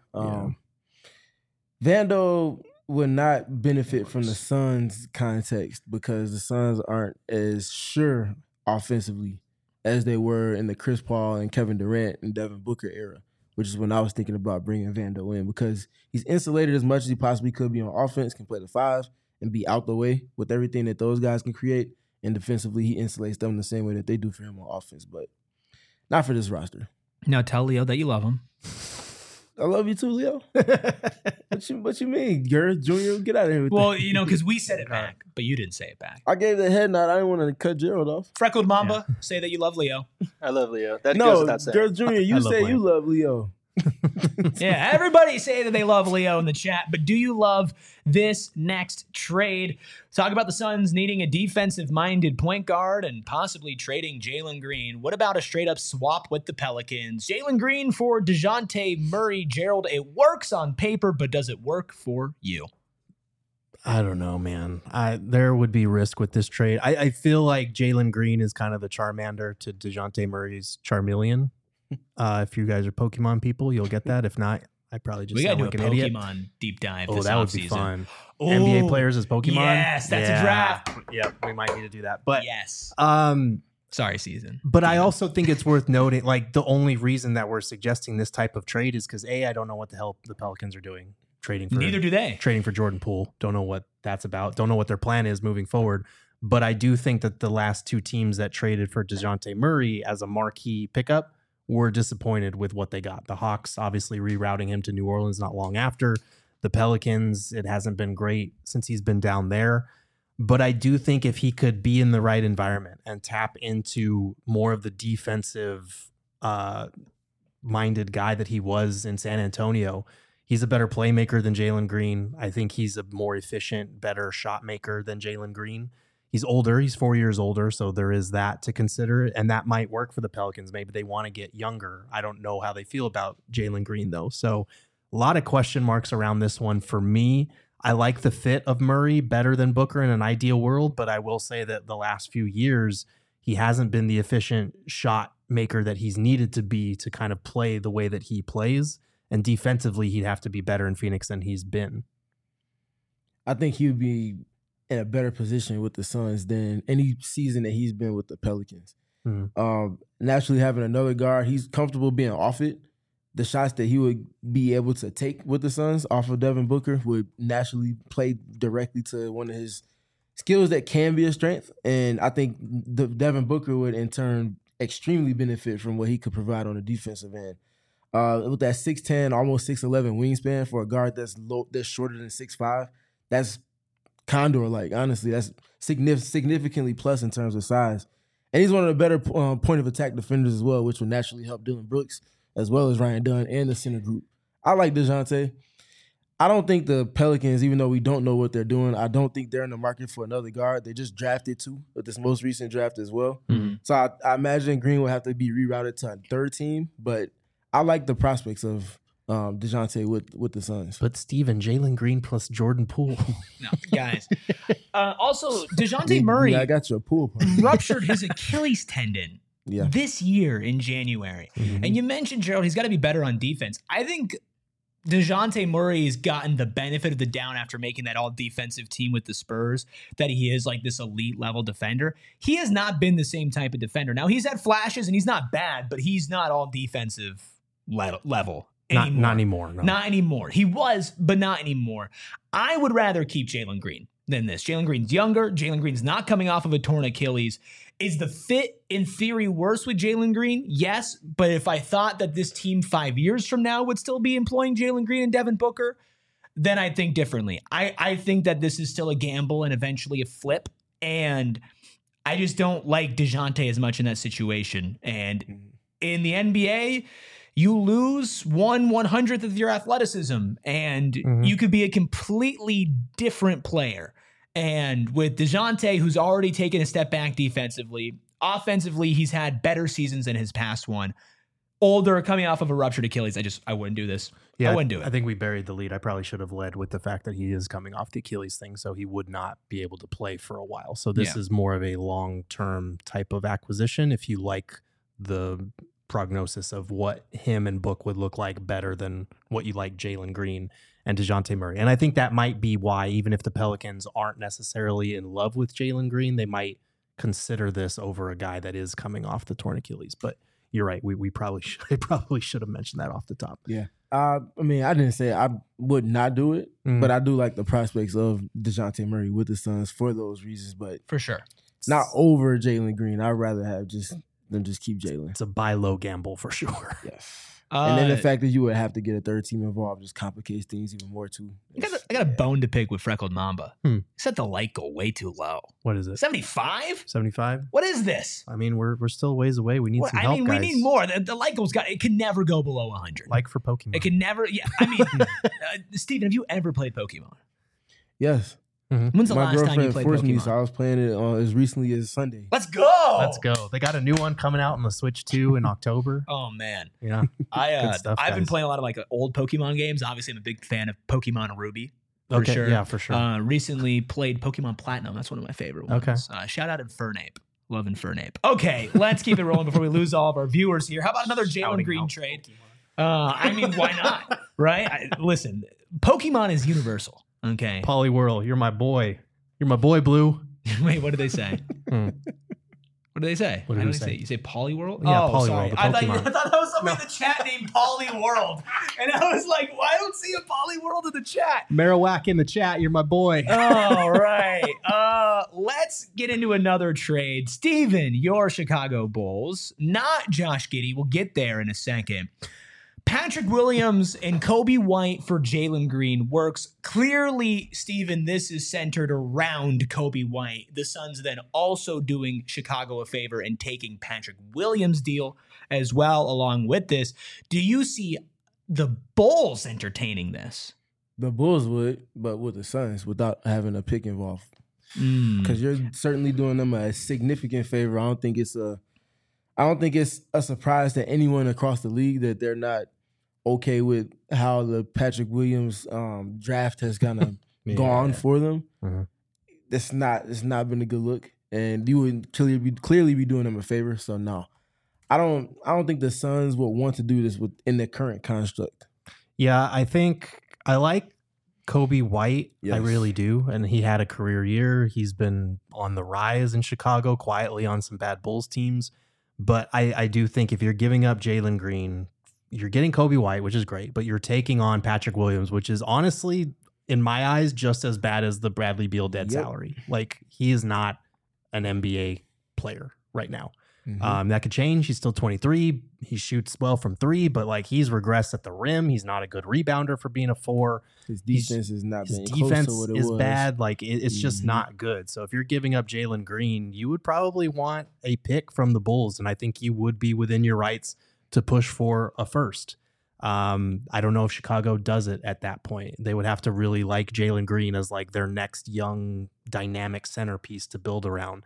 Vando would not benefit from the Suns' context because the Suns aren't as sure offensively as they were in the Chris Paul and Kevin Durant and Devin Booker era, which is when I was thinking about bringing Vando in because he's insulated as much as he possibly could be on offense, can play the 5 and be out the way with everything that those guys can create. And defensively, he insulates them the same way that they do for him on offense, but not for this roster. Now tell Leo that you love him. I love you too, Leo. What you mean, Gerd Jr.? Get out of here with that. Well, because we said it back, but you didn't say it back. I gave the head nod. I didn't want to cut Gerald off. Freckled Mamba, say that you love Leo. I love Leo. That goes without saying. Gerd Jr., you say you love Leo. Yeah, everybody say that they love Leo in the chat, but do you love this next trade? Talk about the Suns needing a defensive-minded point guard and possibly trading Jalen Green. What about a straight-up swap with the Pelicans? Jalen Green for DeJounte Murray. Gerald, it works on paper, but does it work for you? I don't know, man. There would be risk with this trade. I feel like Jalen Green is kind of the Charmander to DeJounte Murray's Charmeleon. If you guys are Pokemon people, you'll get that. If not, I probably just sound like an idiot. We got to do a Pokemon deep dive this that would be fun. NBA players as Pokemon? Yes, that's a draft. Yep, we might need to do that. But yes. Sorry, season. But I also think it's worth noting, like, the only reason that we're suggesting this type of trade is because, I don't know what the hell the Pelicans are doing. Neither do they. Trading for Jordan Poole. Don't know what that's about. Don't know what their plan is moving forward. But I do think that the last 2 teams that traded for DeJounte Murray as a marquee pickup were disappointed with what they got. The Hawks obviously rerouting him to New Orleans not long after. The Pelicans, it hasn't been great since he's been down there. But I do think if he could be in the right environment and tap into more of the defensive minded guy that he was in San Antonio, he's a better playmaker than Jalen Green. I think he's a more efficient, better shot maker than Jalen Green. He's older. He's 4 years older, so there is that to consider, and that might work for the Pelicans. Maybe they want to get younger. I don't know how they feel about Jalen Green, though. So a lot of question marks around this one for me. I like the fit of Murray better than Booker in an ideal world, but I will say that the last few years, he hasn't been the efficient shot maker that he's needed to be to kind of play the way that he plays. And defensively, he'd have to be better in Phoenix than he's been. I think he would be in a better position with the Suns than any season that he's been with the Pelicans. Naturally, having another guard, he's comfortable being off it. The shots that he would be able to take with the Suns off of Devin Booker would naturally play directly to one of his skills that can be a strength. And I think Devin Booker would, in turn, extremely benefit from what he could provide on the defensive end. With that 6'10", almost 6'11" wingspan for a guard that's shorter than 6'5", that's Condor-like, honestly. That's significantly plus in terms of size. And he's one of the better point of attack defenders as well, which will naturally help Dillon Brooks as well as Ryan Dunn and the center group. I like DeJounte. I don't think the Pelicans, even though we don't know what they're doing, I don't think they're in the market for another guard. They just drafted 2 with this most recent draft as well. Mm-hmm. So I imagine Green will have to be rerouted to a third team, but I like the prospects of DeJounte with the Suns. But Steven, Jalen Green plus Jordan Poole. No, guys. Also, DeJounte Murray I got your pool ruptured his Achilles tendon this year in January. Mm-hmm. And you mentioned, Gerald, he's got to be better on defense. I think DeJounte Murray's gotten the benefit of the doubt after making that all-defensive team with the Spurs, that he is like this elite-level defender. He has not been the same type of defender. Now, he's had flashes, and he's not bad, but he's not all-defensive level. Not anymore. No. Not anymore. He was, but not anymore. I would rather keep Jalen Green than this. Jalen Green's younger. Jalen Green's not coming off of a torn Achilles. Is the fit, in theory, worse with Jalen Green? Yes, but if I thought that this team 5 years from now would still be employing Jalen Green and Devin Booker, then I'd think differently. I think that this is still a gamble and eventually a flip, and I just don't like DeJounte as much in that situation. And in the NBA, you lose 1/100th of your athleticism, and you could be a completely different player. And with DeJounte, who's already taken a step back defensively, offensively, he's had better seasons than his past one. older, coming off of a ruptured Achilles. I wouldn't do this. Yeah, I wouldn't do it. I think we buried the lead. I probably should have led with the fact that he is coming off the Achilles thing, so he would not be able to play for a while. So this is more of a long-term type of acquisition if you like the prognosis of what him and Book would look like better than what you like Jalen Green and DeJounte Murray. And I think that might be why, even if the Pelicans aren't necessarily in love with Jalen Green, they might consider this over a guy that is coming off the torn Achilles. But you're right. We probably should have mentioned that off the top. Yeah. I mean, I didn't say I would not do it, but I do like the prospects of DeJounte Murray with the Suns for those reasons. But for sure, not over Jalen Green. I'd rather have them just keep Jalen. It's a buy low gamble for sure. Yes. And then the fact that you would have to get a third team involved just complicates things even more too. I got a bone to pick with Freckled Mamba. He set the light goal way too low. What is it? 75? 75? What is this? I mean, we're still ways away. We need some help, guys. We need more. The light goal's it can never go below 100. Like for Pokemon. It can never. Yeah. I mean, Steven, have you ever played Pokemon? Yes. Mm-hmm. When's the last time you played Pokemon? Me, so I was playing it as recently as Sunday. Let's go! Let's go. They got a new one coming out on the Switch 2 in October. Oh man, yeah. I've been playing a lot of like old Pokemon games. Obviously, I'm a big fan of Pokemon Ruby. For sure. Yeah, for sure. Recently played Pokemon Platinum. That's one of my favorite ones. Okay. Shout out Infernape. Love Infernape. Okay, let's keep it rolling before we lose all of our viewers here. How about another Jalen Green trade? I mean, why not? Right? Listen, Pokemon is universal. Okay. Poliwhirl, you're my boy. You're my boy, Blue. Wait, what did they say? What do they say? What did they say? You say Poliwhirl? Yeah, Poliwhirl. Sorry. I thought that was somebody in the chat named Poliworld. And I was like, well, I don't see a Poliworld in the chat. Marowak in the chat. You're my boy. All right. Let's get into another trade. Steven, your Chicago Bulls, not Josh Giddey. We'll get there in a second. Patrick Williams and Coby White for Jalen Green works. Clearly, Steven, this is centered around Coby White. The Suns then also doing Chicago a favor and taking Patrick Williams' deal as well along with this. Do you see the Bulls entertaining this? The Bulls would, but with the Suns without having a pick involved. Because you're certainly doing them a significant favor. I don't think it's a surprise to anyone across the league that they're not okay with how the Patrick Williams draft has kind of gone for them. Mm-hmm. It's not been a good look, and you would clearly be doing them a favor. So no, I don't think the Suns would want to do this in the current construct. Yeah, I think I like Coby White. Yes. I really do, and he had a career year. He's been on the rise in Chicago quietly on some bad Bulls teams. But I do think if you're giving up Jalen Green, you're getting Coby White, which is great, but you're taking on Patrick Williams, which is honestly, in my eyes, just as bad as the Bradley Beal dead salary. Like, he is not an NBA player right now. Mm-hmm. That could change. He's still 23. He shoots well from three, but like he's regressed at the rim. He's not a good rebounder for being a four. His defense is not been close to what it was. Bad. Like it's just not good. So if you're giving up Jalen Green, you would probably want a pick from the Bulls, and I think you would be within your rights to push for a first. I don't know if Chicago does it at that point. They would have to really like Jalen Green as like their next young dynamic centerpiece to build around.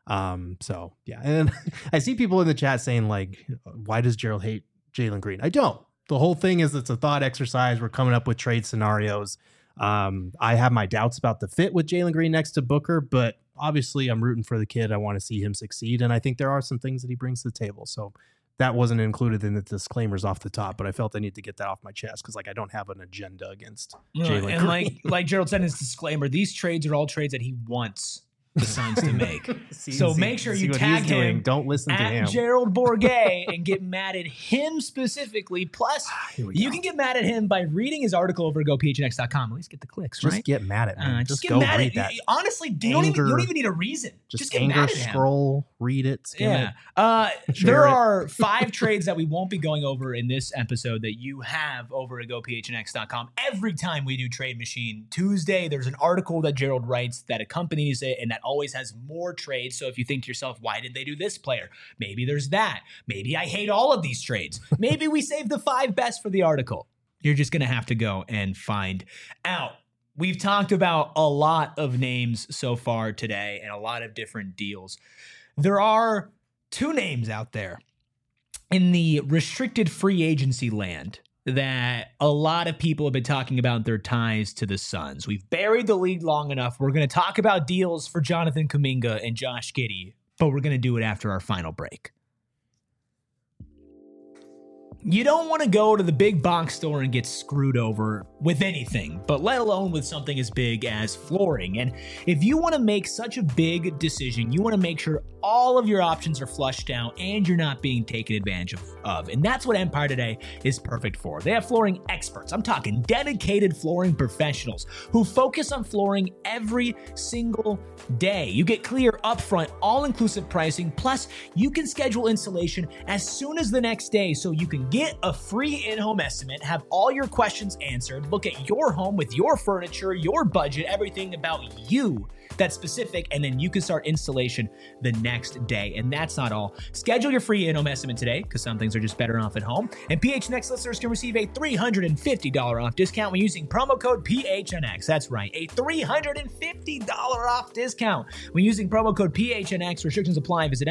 So yeah, and I see people in the chat saying like, why does Gerald hate Jalen Green? I don't. The whole thing is it's a thought exercise. We're coming up with trade scenarios. I have my doubts about the fit with Jalen Green next to Booker, but obviously I'm rooting for the kid. I want to see him succeed, and I think there are some things that he brings to the table. So that wasn't included in the disclaimers off the top, but I felt I need to get that off my chest because like I don't have an agenda against Jalen Green. And like Gerald said in his disclaimer, these trades are all trades that he wants the Suns to make. So make sure you tag him. Don't listen to him. Gerald Bourguet and get mad at him specifically. Plus, you can get mad at him by reading his article over at gophnx.com. At least get the clicks, right? Just get mad at him. Just go mad read that. Honestly, you don't even need a reason. Just get mad at him. Scroll, read it, skim it. There are 5 trades that we won't be going over in this episode that you have over at gophnx.com. Every time we do Trade Machine Tuesday, there's an article that Gerald writes that accompanies it and that always has more trades. So if you think to yourself, why did they do this player? Maybe there's that. Maybe I hate all of these trades. Maybe we saved the 5 best for the article. You're just going to have to go and find out. We've talked about a lot of names so far today and a lot of different deals. There are 2 names out there in the restricted free agency land that a lot of people have been talking about their ties to the Suns. We've buried the league long enough. We're going to talk about deals for Jonathan Kuminga and Josh Giddey, but we're going to do it after our final break. You don't want to go to the big box store and get screwed over with anything, but let alone with something as big as flooring. And if you want to make such a big decision, you want to make sure all of your options are flushed out and you're not being taken advantage of. And that's what Empire Today is perfect for. They have flooring experts. I'm talking dedicated flooring professionals who focus on flooring every single day. You get clear, upfront, all-inclusive pricing, plus you can schedule installation as soon as the next day so you can get a free in-home estimate, have all your questions answered, look at your home with your furniture, your budget, everything about you that's specific, and then you can start installation the next day. And that's not all. Schedule your free in-home estimate today, because some things are just better off at home. And PHNX listeners can receive a $350 off discount when using promo code PHNX. That's right, a $350 off discount when using promo code PHNX. Restrictions apply. Visit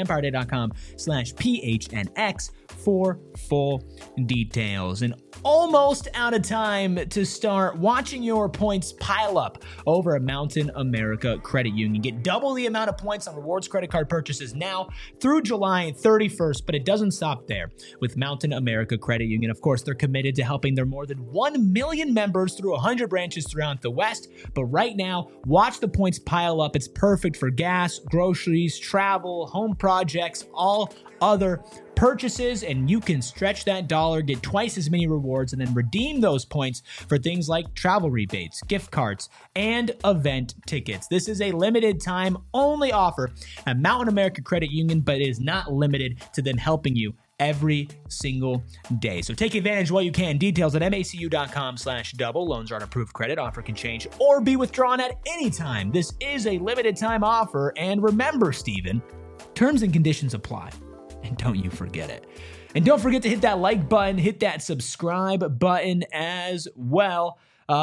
empireday.com/PHNX for full details. And almost out of time to start watching your points pile up over at Mountain America Credit Union. Get double the amount of points on rewards credit card purchases now through July 31st, but it doesn't stop there. With Mountain America Credit Union, of course, they're committed to helping their more than 1 million members through 100 branches throughout the West. But right now, watch the points pile up. It's perfect for gas, groceries, travel, home projects, all other purchases, and you can stretch that dollar, get twice as many rewards, and then redeem those points for things like travel rebates, gift cards, and event tickets. This is a limited time only offer at Mountain America Credit Union, but it is not limited to them helping you every single day. So take advantage while you can. Details at macu.com/double. Loans are on approved credit. Offer can change or be withdrawn at any time. This is a limited time offer. And remember, Steven, terms and conditions apply. And don't you forget it. And don't forget to hit that like button, hit that subscribe button as well.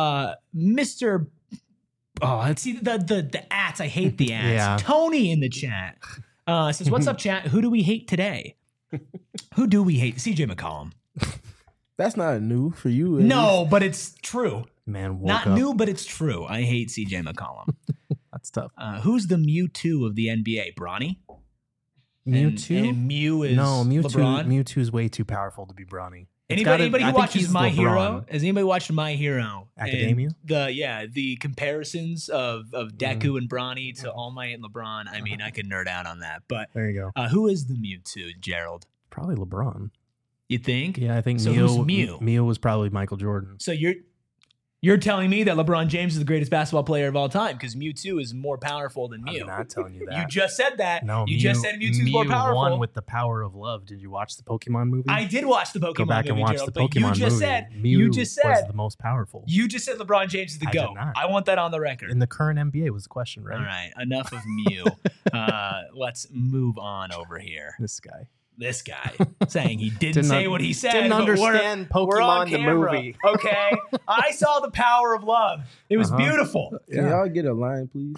Mr. Oh, let's see the ads. I hate the ads. Yeah. Tony in the chat says, "What's up, chat? Who do we hate today?" Who do we hate? CJ McCollum. That's not new for you. No, but it's true. Man, not up. New, but it's true. I hate CJ McCollum. That's tough. Who's the Mewtwo of the NBA? Bronny? Mewtwo? And Mew is Mewtwo. LeBron? Mewtwo is way too powerful to be Bronny. Anybody who watches My Hero? Has anybody watched My Hero? Academia? The comparisons of Deku and Bronny to All Might and LeBron. I mean, I could nerd out on that. But there you go. Who is the Mewtwo, Gerald? Probably LeBron. You think? Yeah, I think so. Who's Mew? Mew was probably Michael Jordan. So you're telling me that LeBron James is the greatest basketball player of all time because Mewtwo is more powerful than Mew. I'm not telling you that. You just said that. No, you just said Mewtwo's more powerful. Mew won with the power of love. Did you watch the Pokemon movie? I did watch the Pokemon movie. Go back and watch Gerald, the Pokemon movie. You just said was the most powerful. You just said LeBron James is the GOAT. I want that on the record. In the current NBA was the question, right? All right, enough of Mew. Let's move on over here. This guy saying he didn't say what he said. Didn't understand Pokemon the movie. Okay, I saw the power of love. It was beautiful. Can y'all get a line, please?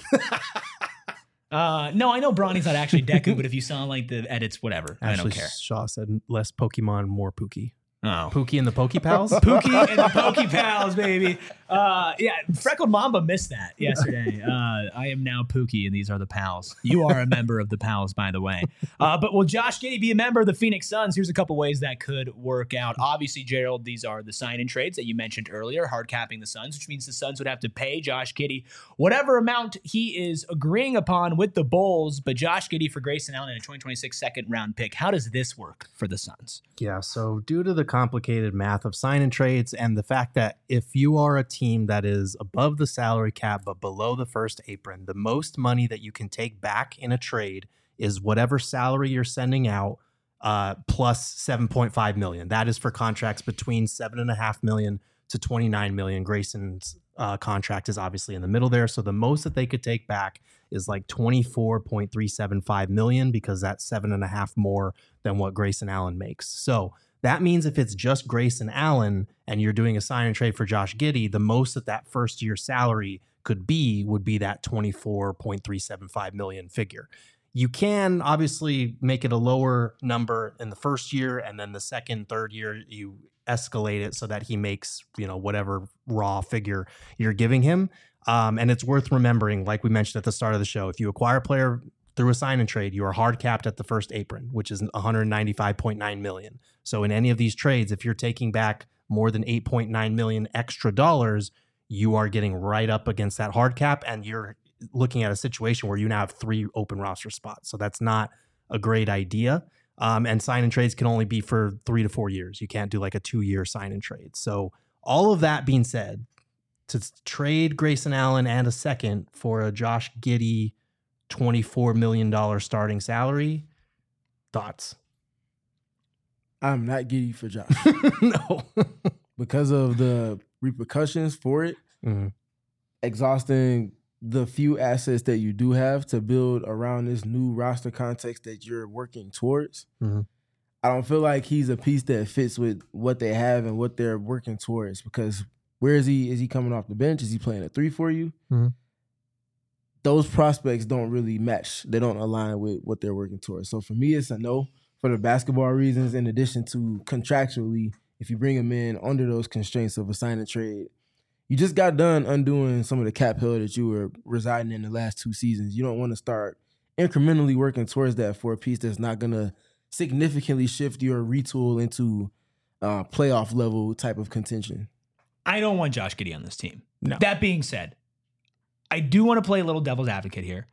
No, I know Bronny's not actually Deku, but if you saw like the edits, whatever, I don't care. Shaw said less Pokemon, more Pookie. Oh. Pookie and the Pokepals? Pookie and the Pokepals, baby. Yeah, Freckled Mamba missed that yesterday. I am now Pookie, and these are the Pals. You are a member of the Pals, by the way. But will Josh Giddey be a member of the Phoenix Suns? Here's a couple ways that could work out. Obviously, Gerald, these are the sign-in trades that you mentioned earlier, hard capping the Suns, which means the Suns would have to pay Josh Giddey whatever amount he is agreeing upon with the Bulls, but Josh Giddey for Grayson Allen in a 2026 second-round pick. How does this work for the Suns? Yeah, so due to the complicated math of sign and trades and the fact that if you are a team that is above the salary cap but below the first apron, the most money that you can take back in a trade is whatever salary you're sending out plus $7.5 million. That is for contracts between $7.5 million to $29 million. Grayson's contract is obviously in the middle there, so the most that they could take back is like $24.375 million because that's 7.5 more than what Grayson Allen makes. So that means if it's just Grayson Allen and you're doing a sign and trade for Josh Giddey, the most that first year salary would be that $24.375 million figure. You can obviously make it a lower number in the first year, and then the second, third year, you escalate it so that he makes, whatever raw figure you're giving him. And it's worth remembering, like we mentioned at the start of the show, if you acquire a player through a sign and trade, you are hard capped at the first apron, which is $195.9 million. So in any of these trades, if you're taking back more than $8.9 million extra dollars, you are getting right up against that hard cap, and you're looking at a situation where you now have 3 open roster spots. So that's not a great idea. And sign and trades can only be for 3 to 4 years. You can't do like a 2-year sign and trade. So all of that being said, to trade Grayson Allen and a second for a Josh Giddey $24 million starting salary, thoughts? I'm not giddy for Josh. No. Because of the repercussions for it, exhausting the few assets that you do have to build around this new roster context that you're working towards. I don't feel like he's a piece that fits with what they have and what they're working towards, because where is he? Is he coming off the bench? Is he playing a 3 for you? Those prospects don't really match. They don't align with what they're working towards. So for me, it's a no for the basketball reasons, in addition to contractually, if you bring him in under those constraints of a sign and trade, you just got done undoing some of the cap hell that you were residing in the last 2 seasons. You don't want to start incrementally working towards that for a piece that's not going to significantly shift your retool into playoff level type of contention. I don't want Josh Giddey on this team. No. That being said, I do want to play a little devil's advocate here.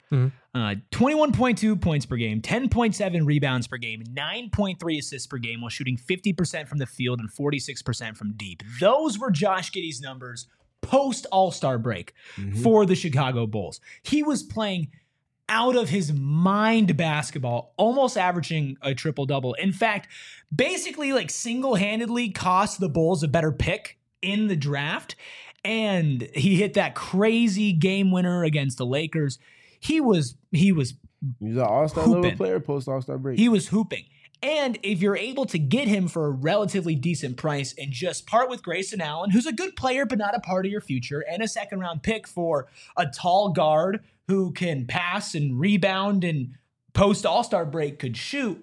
21.2 points per game, 10.7 rebounds per game, 9.3 assists per game while shooting 50% from the field and 46% from deep. Those were Josh Giddey's numbers post All-Star break for the Chicago Bulls. He was playing out of his mind basketball, almost averaging a triple-double. In fact, basically like single-handedly cost the Bulls a better pick in the draft. And he hit that crazy game winner against the Lakers. He was an all-star level player post All-Star break. He was hooping. And if you're able to get him for a relatively decent price and just part with Grayson Allen, who's a good player but not a part of your future, and a second-round pick for a tall guard who can pass and rebound and post All-Star break could shoot,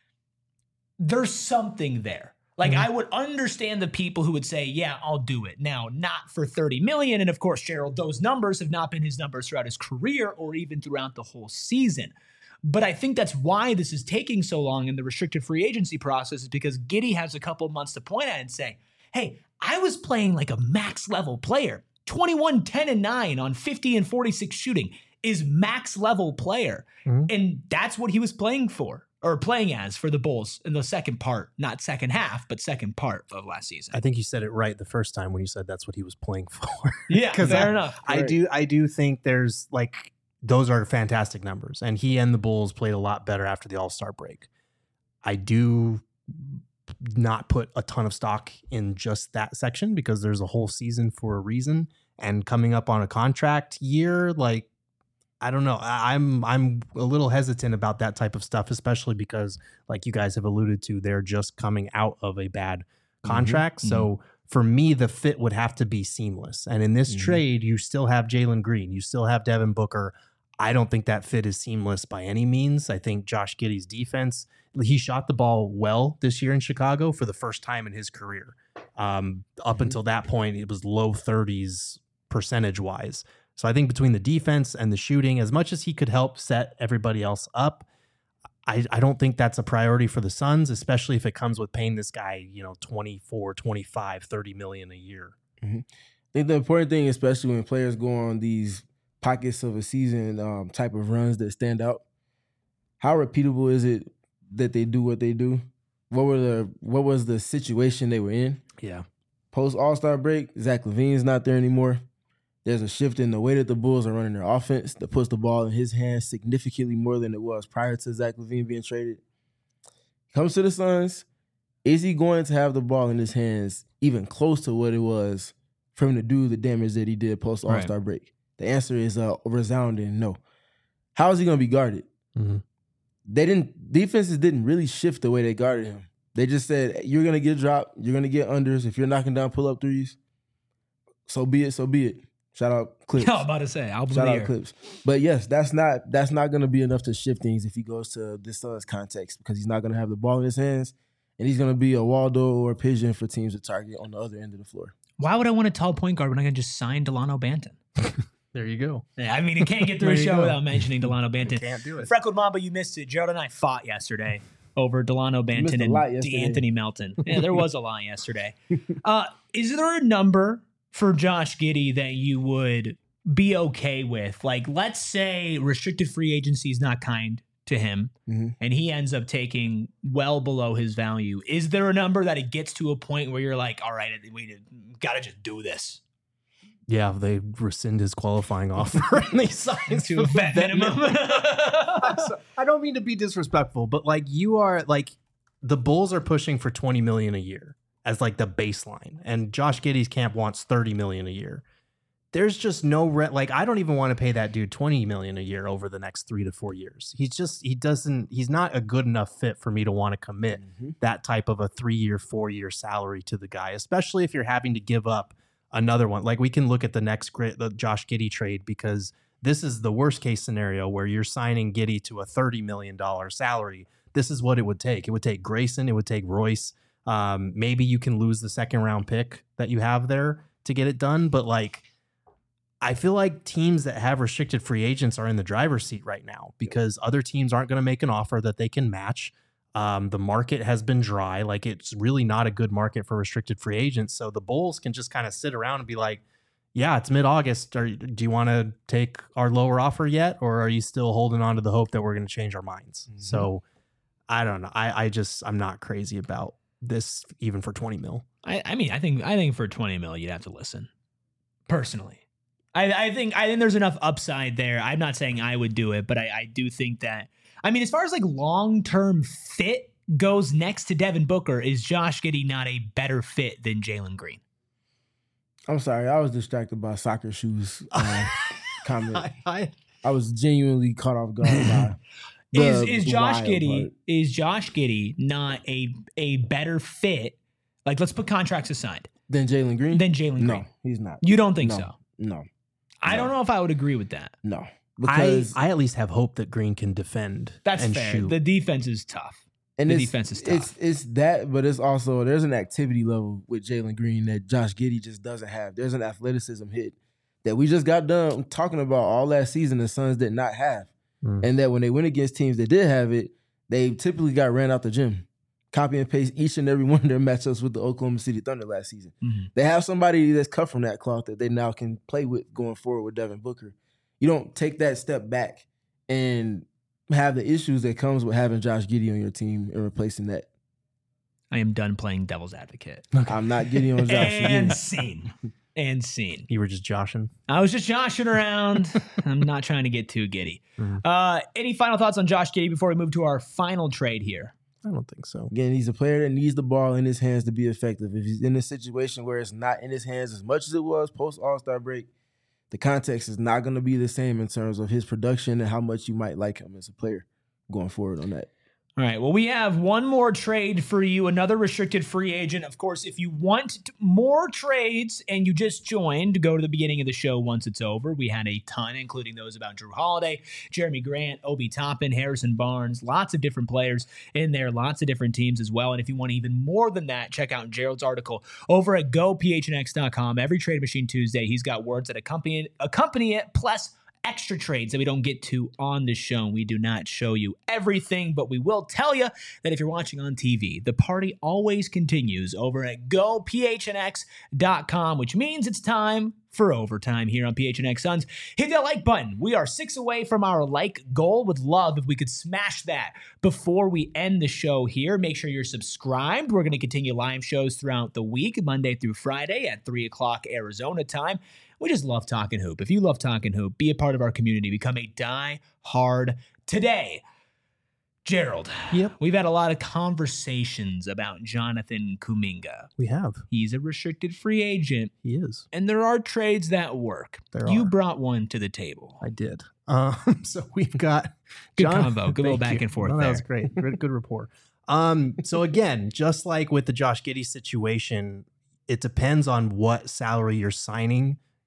there's something there. Like, I would understand the people who would say, yeah, I'll do it. Now, not for $30 million. And of course, Gerald, those numbers have not been his numbers throughout his career or even throughout the whole season. But I think that's why this is taking so long in the restricted free agency process, is because Giddey has a couple of months to point at and say, hey, I was playing like a max level player. 21, 10, and 9 on 50 and 46 shooting is max level player. And that's what he was playing for. Or playing as for the Bulls in the second part, not second half, but second part of last season. I think you said it right the first time when you said that's what he was playing for. Yeah, fair enough. I do think there's like, those are fantastic numbers, and he and the Bulls played a lot better after the All-Star break. I do not put a ton of stock in just that section because there's a whole season for a reason, and coming up on a contract year, like, I don't know. I'm a little hesitant about that type of stuff, especially because, like you guys have alluded to, they're just coming out of a bad contract. So for me, the fit would have to be seamless. And in this trade, you still have Jalen Green. You still have Devin Booker. I don't think that fit is seamless by any means. I think Josh Giddey's defense, he shot the ball well this year in Chicago for the first time in his career. Up until that point, it was low 30s percentage-wise. So I think between the defense and the shooting, as much as he could help set everybody else up, I don't think that's a priority for the Suns, especially if it comes with paying this guy, 24, 25, 30 million a year. I think the important thing, especially when players go on these pockets of a season type of runs that stand out, how repeatable is it that they do what they do? What was the situation they were in? Yeah. Post All-Star break, Zach LaVine's not there anymore. There's a shift in the way that the Bulls are running their offense that puts the ball in his hands significantly more than it was prior to Zach LaVine being traded. Comes to the Suns, is he going to have the ball in his hands even close to what it was for him to do the damage that he did post All-Star break? The answer is a resounding no. How is he going to be guarded? Defenses didn't really shift the way they guarded him. They just said, you're going to get dropped, you're going to get unders. If you're knocking down pull-up threes, so be it, so be it. Shout out Clips. I was about to say album Shout of the out year. Clips. But yes, that's not going to be enough to shift things if he goes to this Suns context, because he's not going to have the ball in his hands, and he's going to be a Waldo or a pigeon for teams to target on the other end of the floor. Why would I want a tall point guard when I can just sign Delano Banton? There you go. Yeah, I mean, it can't get through a show without mentioning Delano Banton. Can't do it. Freckled Mamba, you missed it. Gerald and I fought yesterday over Delano Banton and D'Anthony Melton. Yeah, there was a lot yesterday. Is there a number for Josh Giddey that you would be okay with? Like, let's say restricted free agency is not kind to him, and he ends up taking well below his value. Is there a number that it gets to a point where you're like, all right, we got to just do this? Yeah, they rescind his qualifying offer and they sign to a vet minimum. I don't mean to be disrespectful, but like you are like the Bulls are pushing for $20 million a year as like the baseline, and Josh Giddey's camp wants $30 million a year. There's just no like I don't even want to pay that dude $20 million a year over the next 3 to 4 years. He's not a good enough fit for me to want to commit that type of a 3-year, 4-year salary to the guy, especially if you're having to give up another one. Like we can look at the Josh Giddey trade, because this is the worst case scenario where you're signing Giddey to a $30 million salary. This is what it would take. It would take Grayson. It would take Royce. Maybe you can lose the 2nd round pick that you have there to get it done. But like, I feel like teams that have restricted free agents are in the driver's seat right now because other teams aren't going to make an offer that they can match. The market has been dry. Like it's really not a good market for restricted free agents. So the Bulls can just kind of sit around and be like, yeah, it's mid-August. Do you want to take our lower offer yet? Or are you still holding on to the hope that we're going to change our minds? So I don't know. I'm not crazy about this even for 20 mil. I mean, I think for 20 mil, you'd have to listen personally. I think there's enough upside there. I'm not saying I would do it, but I do think that, I mean, as far as like long-term fit goes next to Devin Booker, is Josh Giddey not a better fit than Jalen Green? I'm sorry. I was distracted by soccer shoes comment. I was genuinely caught off guard by is Josh Giddey not a better fit? Like, let's put contracts aside. Than Jalen Green? No, he's not. You don't think so? No. I don't know if I would agree with that. No. Because I at least have hope that Green can defend. That's and fair. shoot. The defense is tough. And the defense is tough. It's that, but it's also, there's an activity level with Jalen Green that Josh Giddey just doesn't have. There's an athleticism hit that we just got done talking about all last season the Suns did not have. And that when they went against teams that did have it, they typically got ran out the gym. Copy and paste each and every one of their matchups with the Oklahoma City Thunder last season. They have somebody that's cut from that cloth that they now can play with going forward with Devin Booker. You don't take that step back and have the issues that comes with having Josh Giddey on your team and replacing that. I am done playing devil's advocate. Okay. I'm not Giddey on Josh Giddey. And scene. You were just joshing? I was just joshing around. I'm not trying to get too giddy. Any final thoughts on Josh Giddey before we move to our final trade here? I don't think so. Again, he's a player that needs the ball in his hands to be effective. If he's in a situation where it's not in his hands as much as it was post All-Star break, the context is not going to be the same in terms of his production and how much you might like him as a player going forward on that. All right. Well, we have one more trade for you, another restricted free agent. Of course, if you want more trades and you just joined, go to the beginning of the show once it's over. We had a ton, including those about Drew Holiday, Jeremy Grant, Obi Toppin, Harrison Barnes, lots of different players in there, lots of different teams as well. And if you want even more than that, check out Gerald's article over at gophnx.com. Every Trade Machine Tuesday, he's got words that accompany it, plus extra trades that we don't get to on the show. We do not show you everything, but we will tell you that if you're watching on TV, the party always continues over at gophnx.com, which means it's time for overtime here on PHNX Suns. Hit that like button. We are 6 away from our like goal. Would love if we could smash that before we end the show here. Make sure you're subscribed. We're going to continue live shows throughout the week, Monday through Friday at 3 o'clock Arizona time. We just love talking hoop. If you love talking hoop, be a part of our community. Become a die-hard today. Gerald, we've had a lot of conversations about Jonathan Kuminga. We have. He's a restricted free agent. He is. And there are trades that work. You brought one to the table. I did. So we've got... Good convo. Good little back and forth there. That was great. Good rapport. So again, just like with the Josh Giddey situation, it depends on what salary you're signing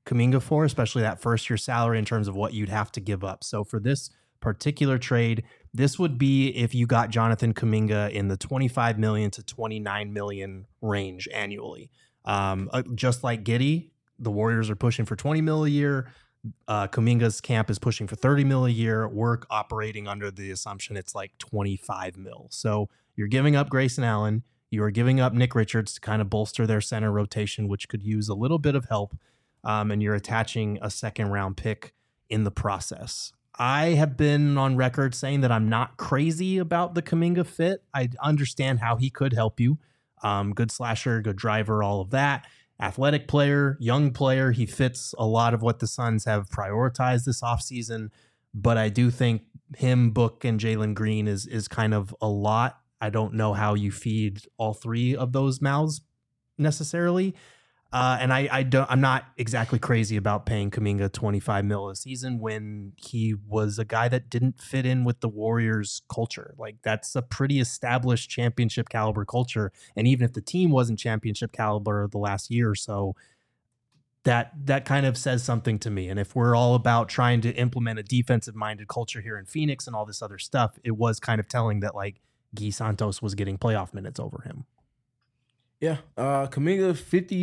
Kuminga for, especially that first year salary in terms of what you'd have to give up. So for this particular trade, this would be if you got Jonathan Kuminga in the 25 million to 29 million range annually. Just like Giddey, the Warriors are pushing for 20 mil a year. Kuminga's camp is pushing for 30 mil a year. We're operating under the assumption it's like 25 mil. So you're giving up Grayson Allen. You are giving up Nick Richards to kind of bolster their center rotation, which could use a little bit of help. And you're attaching a second round pick in the process. I have been on record saying that I'm not crazy about the Kuminga fit. I understand how he could help you. Good slasher, good driver, all of that. Athletic player, young player. He fits a lot of what the Suns have prioritized this offseason. But I do think him, Book, and Jalen Green is kind of a lot. I don't know how you feed all three of those mouths necessarily. And I'm not exactly crazy about paying Kuminga 25 mil a season when he was a guy that didn't fit in with the Warriors culture. Like, that's a pretty established championship caliber culture. And even if the team wasn't championship caliber the last year or so, that kind of says something to me. And if we're all about trying to implement a defensive minded culture here in Phoenix and all this other stuff, it was kind of telling that like Guy Santos was getting playoff minutes over him. Yeah, Kuminga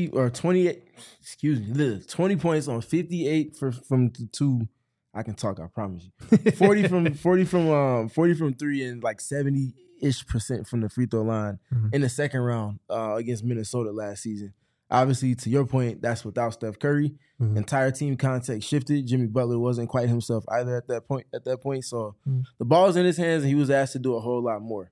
20 points on 58 from the two. I can talk, I promise you. 40 from three and like 70-ish% from the free throw line in the second round against Minnesota last season. Obviously, to your point, that's without Steph Curry. Entire team context shifted. Jimmy Butler wasn't quite himself either at that point. So the ball was in his hands and he was asked to do a whole lot more.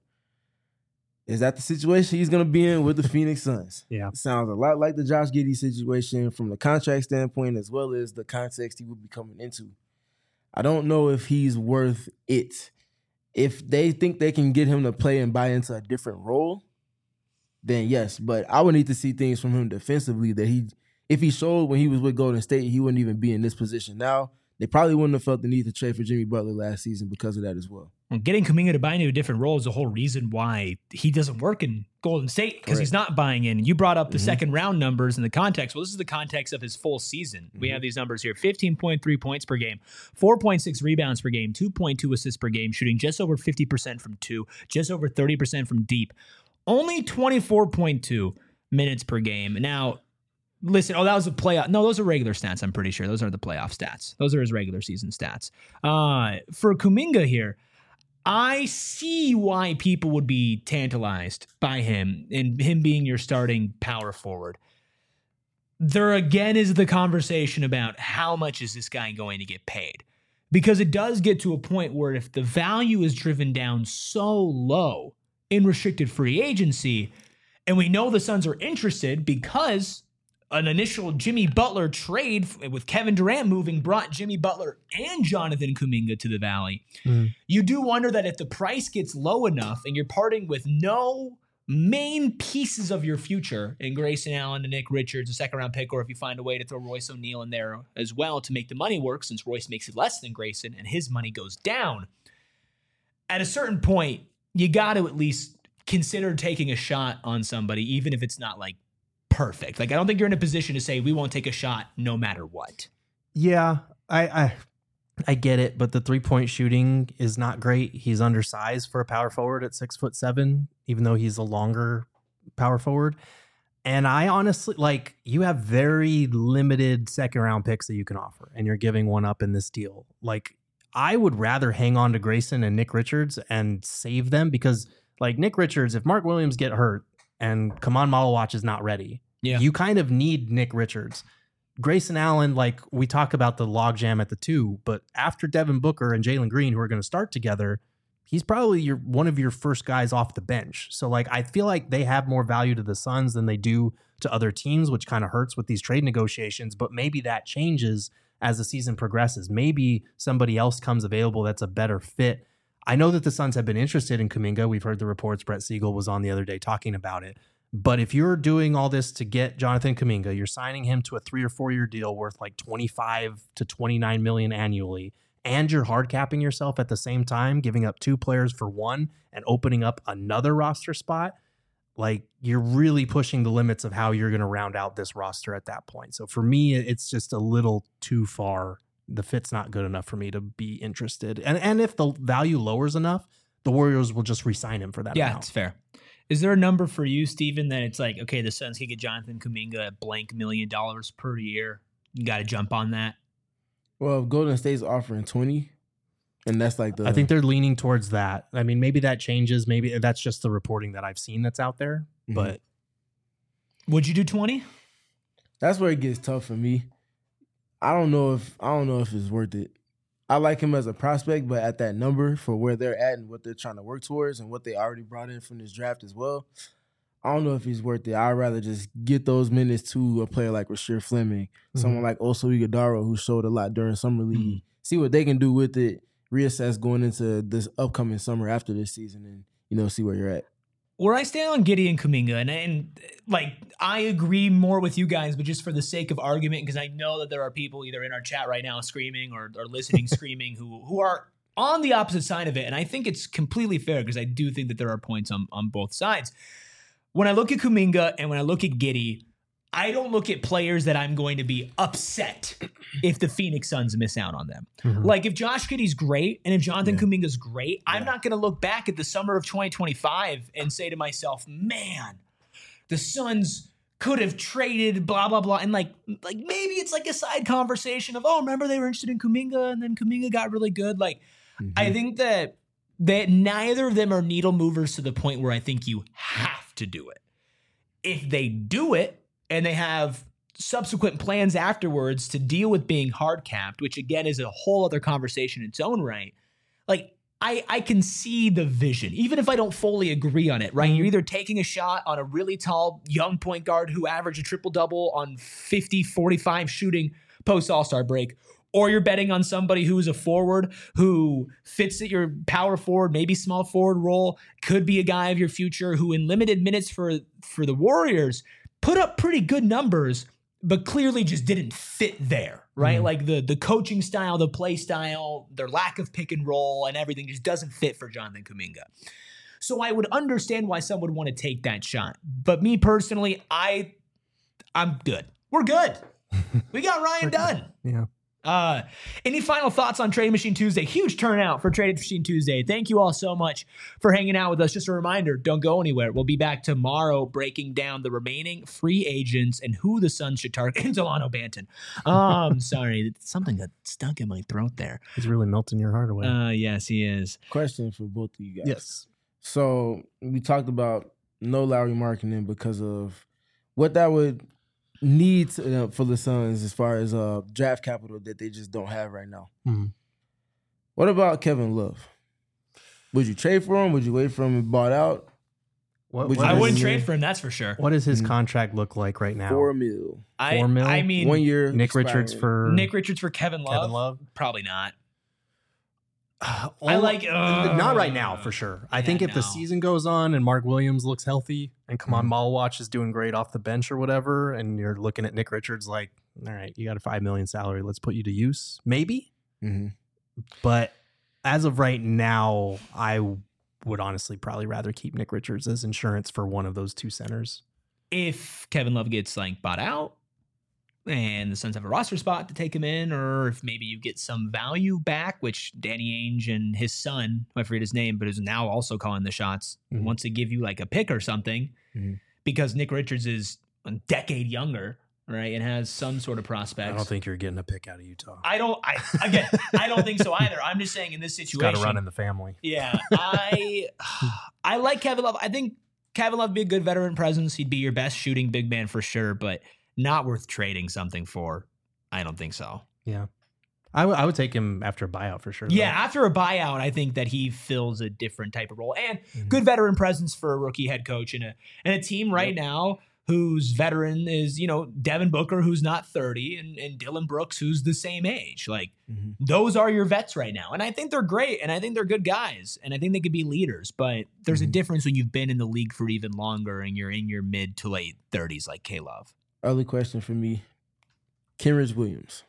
Is that the situation he's going to be in with the Phoenix Suns? Yeah. It sounds a lot like the Josh Giddey situation from the contract standpoint as well as the context he would be coming into. I don't know if he's worth it. If they think they can get him to play and buy into a different role, then yes. But I would need to see things from him defensively that if he showed when he was with Golden State, he wouldn't even be in this position now. They probably wouldn't have felt the need to trade for Jimmy Butler last season because of that as well. Well, getting Kuminga to buy into a different role is the whole reason why he doesn't work in Golden State, because he's not buying in. You brought up the second round numbers in the context. Well, this is the context of his full season. We have these numbers here: 15.3 points per game, 4.6 rebounds per game, 2.2 assists per game, shooting just over 50% from two, just over 30% from deep, only 24.2 minutes per game. Now, listen, that was a playoff. No, those are regular stats, I'm pretty sure. Those are the playoff stats. Those are his regular season stats. For Kuminga here, I see why people would be tantalized by him and him being your starting power forward. There again is the conversation about how much is this guy going to get paid? Because it does get to a point where if the value is driven down so low in restricted free agency, and we know the Suns are interested because an initial Jimmy Butler trade with Kevin Durant moving brought Jimmy Butler and Jonathan Kuminga to the Valley. You do wonder that if the price gets low enough and you're parting with no main pieces of your future in Grayson Allen and Nick Richards, a second-round pick, or if you find a way to throw Royce O'Neal in there as well to make the money work, since Royce makes it less than Grayson and his money goes down, at a certain point, you got to at least consider taking a shot on somebody, even if it's not like perfect. Like, I don't think you're in a position to say we won't take a shot no matter what. Yeah, I get it, but the 3-point shooting is not great. He's undersized for a power forward at 6'7", even though he's a longer power forward. And I honestly, like, you have very limited second round picks that you can offer, and you're giving one up in this deal. Like, I would rather hang on to Grayson and Nick Richards and save them, because like Nick Richards, if Mark Williams get hurt and Kaman Malawach is not ready, you kind of need Nick Richards. Grayson Allen, like, we talk about the logjam at the two, but after Devin Booker and Jalen Green, who are going to start together, he's probably one of your first guys off the bench. So, like, I feel like they have more value to the Suns than they do to other teams, which kind of hurts with these trade negotiations. But maybe that changes as the season progresses. Maybe somebody else comes available that's a better fit. I know that the Suns have been interested in Kuminga. We've heard the reports. Brett Siegel was on the other day talking about it. But if you're doing all this to get Jonathan Kuminga, you're signing him to a 3 or 4 year deal worth like 25 to 29 million annually, and you're hard capping yourself at the same time, giving up 2 players for 1 and opening up another roster spot. like you're really pushing the limits of how you're going to round out this roster at that point. So for me, it's just a little too far. The fit's not good enough for me to be interested. And if the value lowers enough, the Warriors will just re-sign him for that amount. Yeah, it's fair. Is there a number for you, Steven, that it's like, okay, the Suns can get Jonathan Kuminga at blank $1 million per year? You got to jump on that? Well, if Golden State's offering 20, and that's like I think they're leaning towards that. I mean, maybe that changes. Maybe that's just the reporting that I've seen that's out there. Mm-hmm. But would you do 20? That's where it gets tough for me. I don't know if it's worth it. I like him as a prospect, but at that number for where they're at and what they're trying to work towards and what they already brought in from this draft as well, I don't know if he's worth it. I'd rather just get those minutes to a player like Rasheer Fleming, someone like Oso Ighodaro, who showed a lot during Summer League. See what they can do with it, reassess going into this upcoming summer after this season, and, see where you're at. Where I stand on Giddey and Kuminga, and like I agree more with you guys, but just for the sake of argument, because I know that there are people either in our chat right now screaming or listening screaming who are on the opposite side of it, and I think it's completely fair because I do think that there are points on both sides. When I look at Kuminga and when I look at Giddey, I don't look at players that I'm going to be upset if the Phoenix Suns miss out on them. Mm-hmm. Like if Josh Giddey's great and if Jonathan Kuminga's great, I'm not going to look back at the summer of 2025 and say to myself, man, the Suns could have traded blah, blah, blah. And like maybe it's like a side conversation of, remember they were interested in Kuminga and then Kuminga got really good. Like I think that neither of them are needle movers to the point where I think you have to do it. If they do it, and they have subsequent plans afterwards to deal with being hard capped, which again is a whole other conversation in its own right. Like I can see the vision, even if I don't fully agree on it, right? You're either taking a shot on a really tall young point guard who averaged a triple-double on 50-45 shooting post All-Star break, or you're betting on somebody who is a forward who fits at your power forward, maybe small forward role, could be a guy of your future who in limited minutes for the Warriors put up pretty good numbers, but clearly just didn't fit there, right? Like the coaching style, the play style, their lack of pick and roll and everything just doesn't fit for Jonathan Kuminga. So I would understand why some would want to take that shot. But me personally, I'm good. We're good. We got Ryan Dunn. Yeah. Any final thoughts on Trade Machine Tuesday? Huge turnout for Trade Machine Tuesday. Thank you all so much for hanging out with us. Just a reminder, don't go anywhere. We'll be back tomorrow breaking down the remaining free agents and who the Suns should target. Delano Banton. Sorry, something got stuck in my throat there. He's really melting your heart away. Yes, he is. Question for both of you guys. Yes. So we talked about no Lauri Markkanen because of what that would needs for the Suns as far as draft capital that they just don't have right now. What about Kevin Love? Would you trade for him? Would you wait for him and bought out? I wouldn't trade for him, that's for sure. What does his contract look like right now? $4 million. $4 million? I mean, 1 year. Nick Richards for Kevin Love? Probably not. Not right now for sure. I think if the season goes on and Mark Williams looks healthy and Kaman Malwatch is doing great off the bench or whatever, and you're looking at Nick Richards like, all right, you got a $5 million salary, let's put you to use, maybe. But as of right now, I would honestly probably rather keep Nick Richards as insurance for one of those two centers. If Kevin Love gets bought out and the Suns have a roster spot to take him in, or if maybe you get some value back, which Danny Ainge and his son, I forget his name, but is now also calling the shots, wants to give you like a pick or something because Nick Richards is a decade younger, right, and has some sort of prospects. I don't think you're getting a pick out of Utah. I don't think so either. I'm just saying in this situation. Got to run in the family. Yeah. I like Kevin Love. I think Kevin Love would be a good veteran presence. He'd be your best shooting big man for sure, but not worth trading something for. I don't think so. Yeah. I would take him after a buyout for sure. Yeah, after a buyout, I think that he fills a different type of role. And good veteran presence for a rookie head coach and a team right now whose veteran is, Devin Booker, who's not 30, and Dylan Brooks, who's the same age. Like, those are your vets right now. And I think they're great, and I think they're good guys, and I think they could be leaders. But there's a difference when you've been in the league for even longer and you're in your mid to late 30s like K-Love. Early question for me. Kenrich Williams.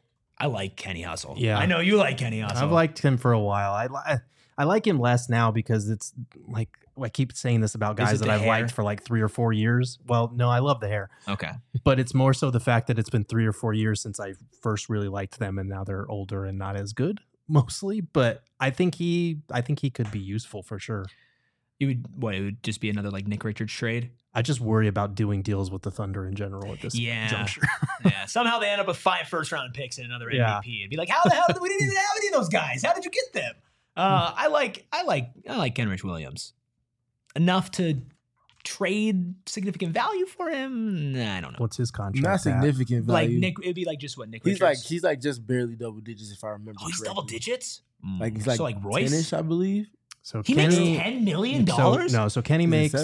I like Kenny Hustle. Yeah. I know you like Kenny Hustle. I've liked him for a while. I like him less now because it's like, I keep saying this about guys that I've liked for like 3 or 4 years. Well, no, I love the hair. Okay. But it's more so the fact that it's been 3 or 4 years since I first really liked them, and now they're older and not as good mostly. But I think he could be useful for sure. It would just be another like Nick Richards trade? I just worry about doing deals with the Thunder in general at this juncture. Yeah. Somehow they end up with 5 first-round picks and another MVP. It'd be like, how the hell we didn't even have any of those guys? How did you get them? I like Kenrich Williams enough to trade significant value for him. Nah, I don't know. What's his contract? Not significant value. Like Nick, it'd be like just what Nick Richards. He's like just barely double digits if I remember. Oh, he's correctly. double digits. Like he's like Royce, 10-ish, I believe. So he makes $10 million. So Kenny makes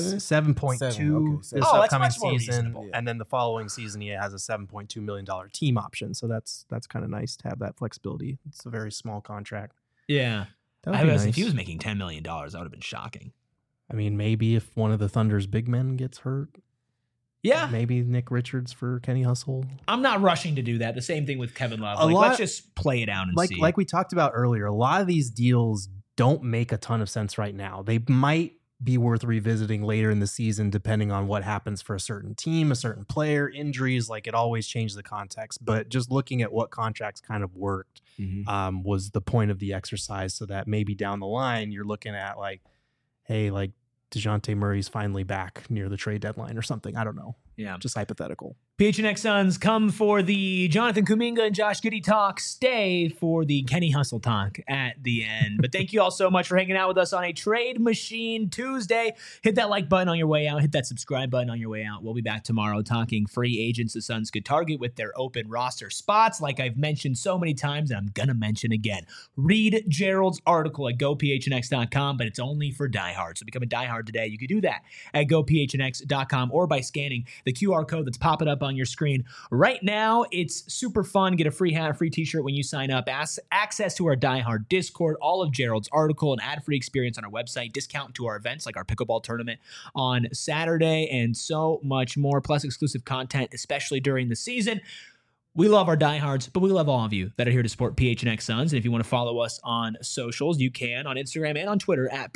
7.2 this upcoming season, and then the following season he has a $7.2 million team option. So that's kind of nice to have that flexibility. It's a very small contract. Yeah, nice. If he was making $10 million, that would have been shocking. I mean, maybe if one of the Thunder's big men gets hurt. Yeah. Maybe Nick Richards for Kenny Hustle. I'm not rushing to do that. The same thing with Kevin Love. Let's just play it out and see. Like we talked about earlier, a lot of these deals don't make a ton of sense right now. They might be worth revisiting later in the season, depending on what happens for a certain team, a certain player, injuries. Like it always changes the context. But just looking at what contracts kind of worked was the point of the exercise, so that maybe down the line you're looking at like, hey, like DeJounte Murray's finally back near the trade deadline or something. I don't know. Yeah. Just hypothetical. PHNX Suns come for the Jonathan Kuminga and Josh Giddey talk. Stay for the Kenny Hustle talk at the end. But thank you all so much for hanging out with us on a Trade Machine Tuesday. Hit that like button on your way out. Hit that subscribe button on your way out. We'll be back tomorrow talking free agents the Suns could target with their open roster spots. Like I've mentioned so many times, and I'm going to mention again. Read Gerald's article at gophnx.com, but it's only for diehards. So become a diehard today. You can do that at gophnx.com or by scanning the QR code that's popping up on your screen right now. It's super fun. Get a free hat, a free t-shirt when you sign up. Access to our diehard Discord, all of Gerald's article, an ad-free experience on our website, discount to our events like our pickleball tournament on Saturday, and so much more, plus exclusive content, especially during the season. We love our diehards, but we love all of you that are here to support PHNX Suns. And if you want to follow us on socials, you can on Instagram and on Twitter at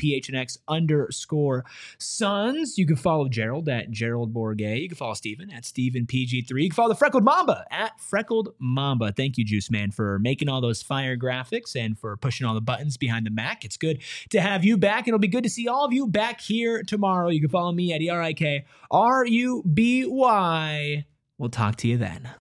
PHNX_Suns. You can follow Gerald at Gerald Bourget. You can follow Steven at StevenPG3. You can follow the Freckled Mamba at Freckled Mamba. Thank you, Juice Man, for making all those fire graphics and for pushing all the buttons behind the Mac. It's good to have you back. It'll be good to see all of you back here tomorrow. You can follow me at ERIKRUBY. We'll talk to you then.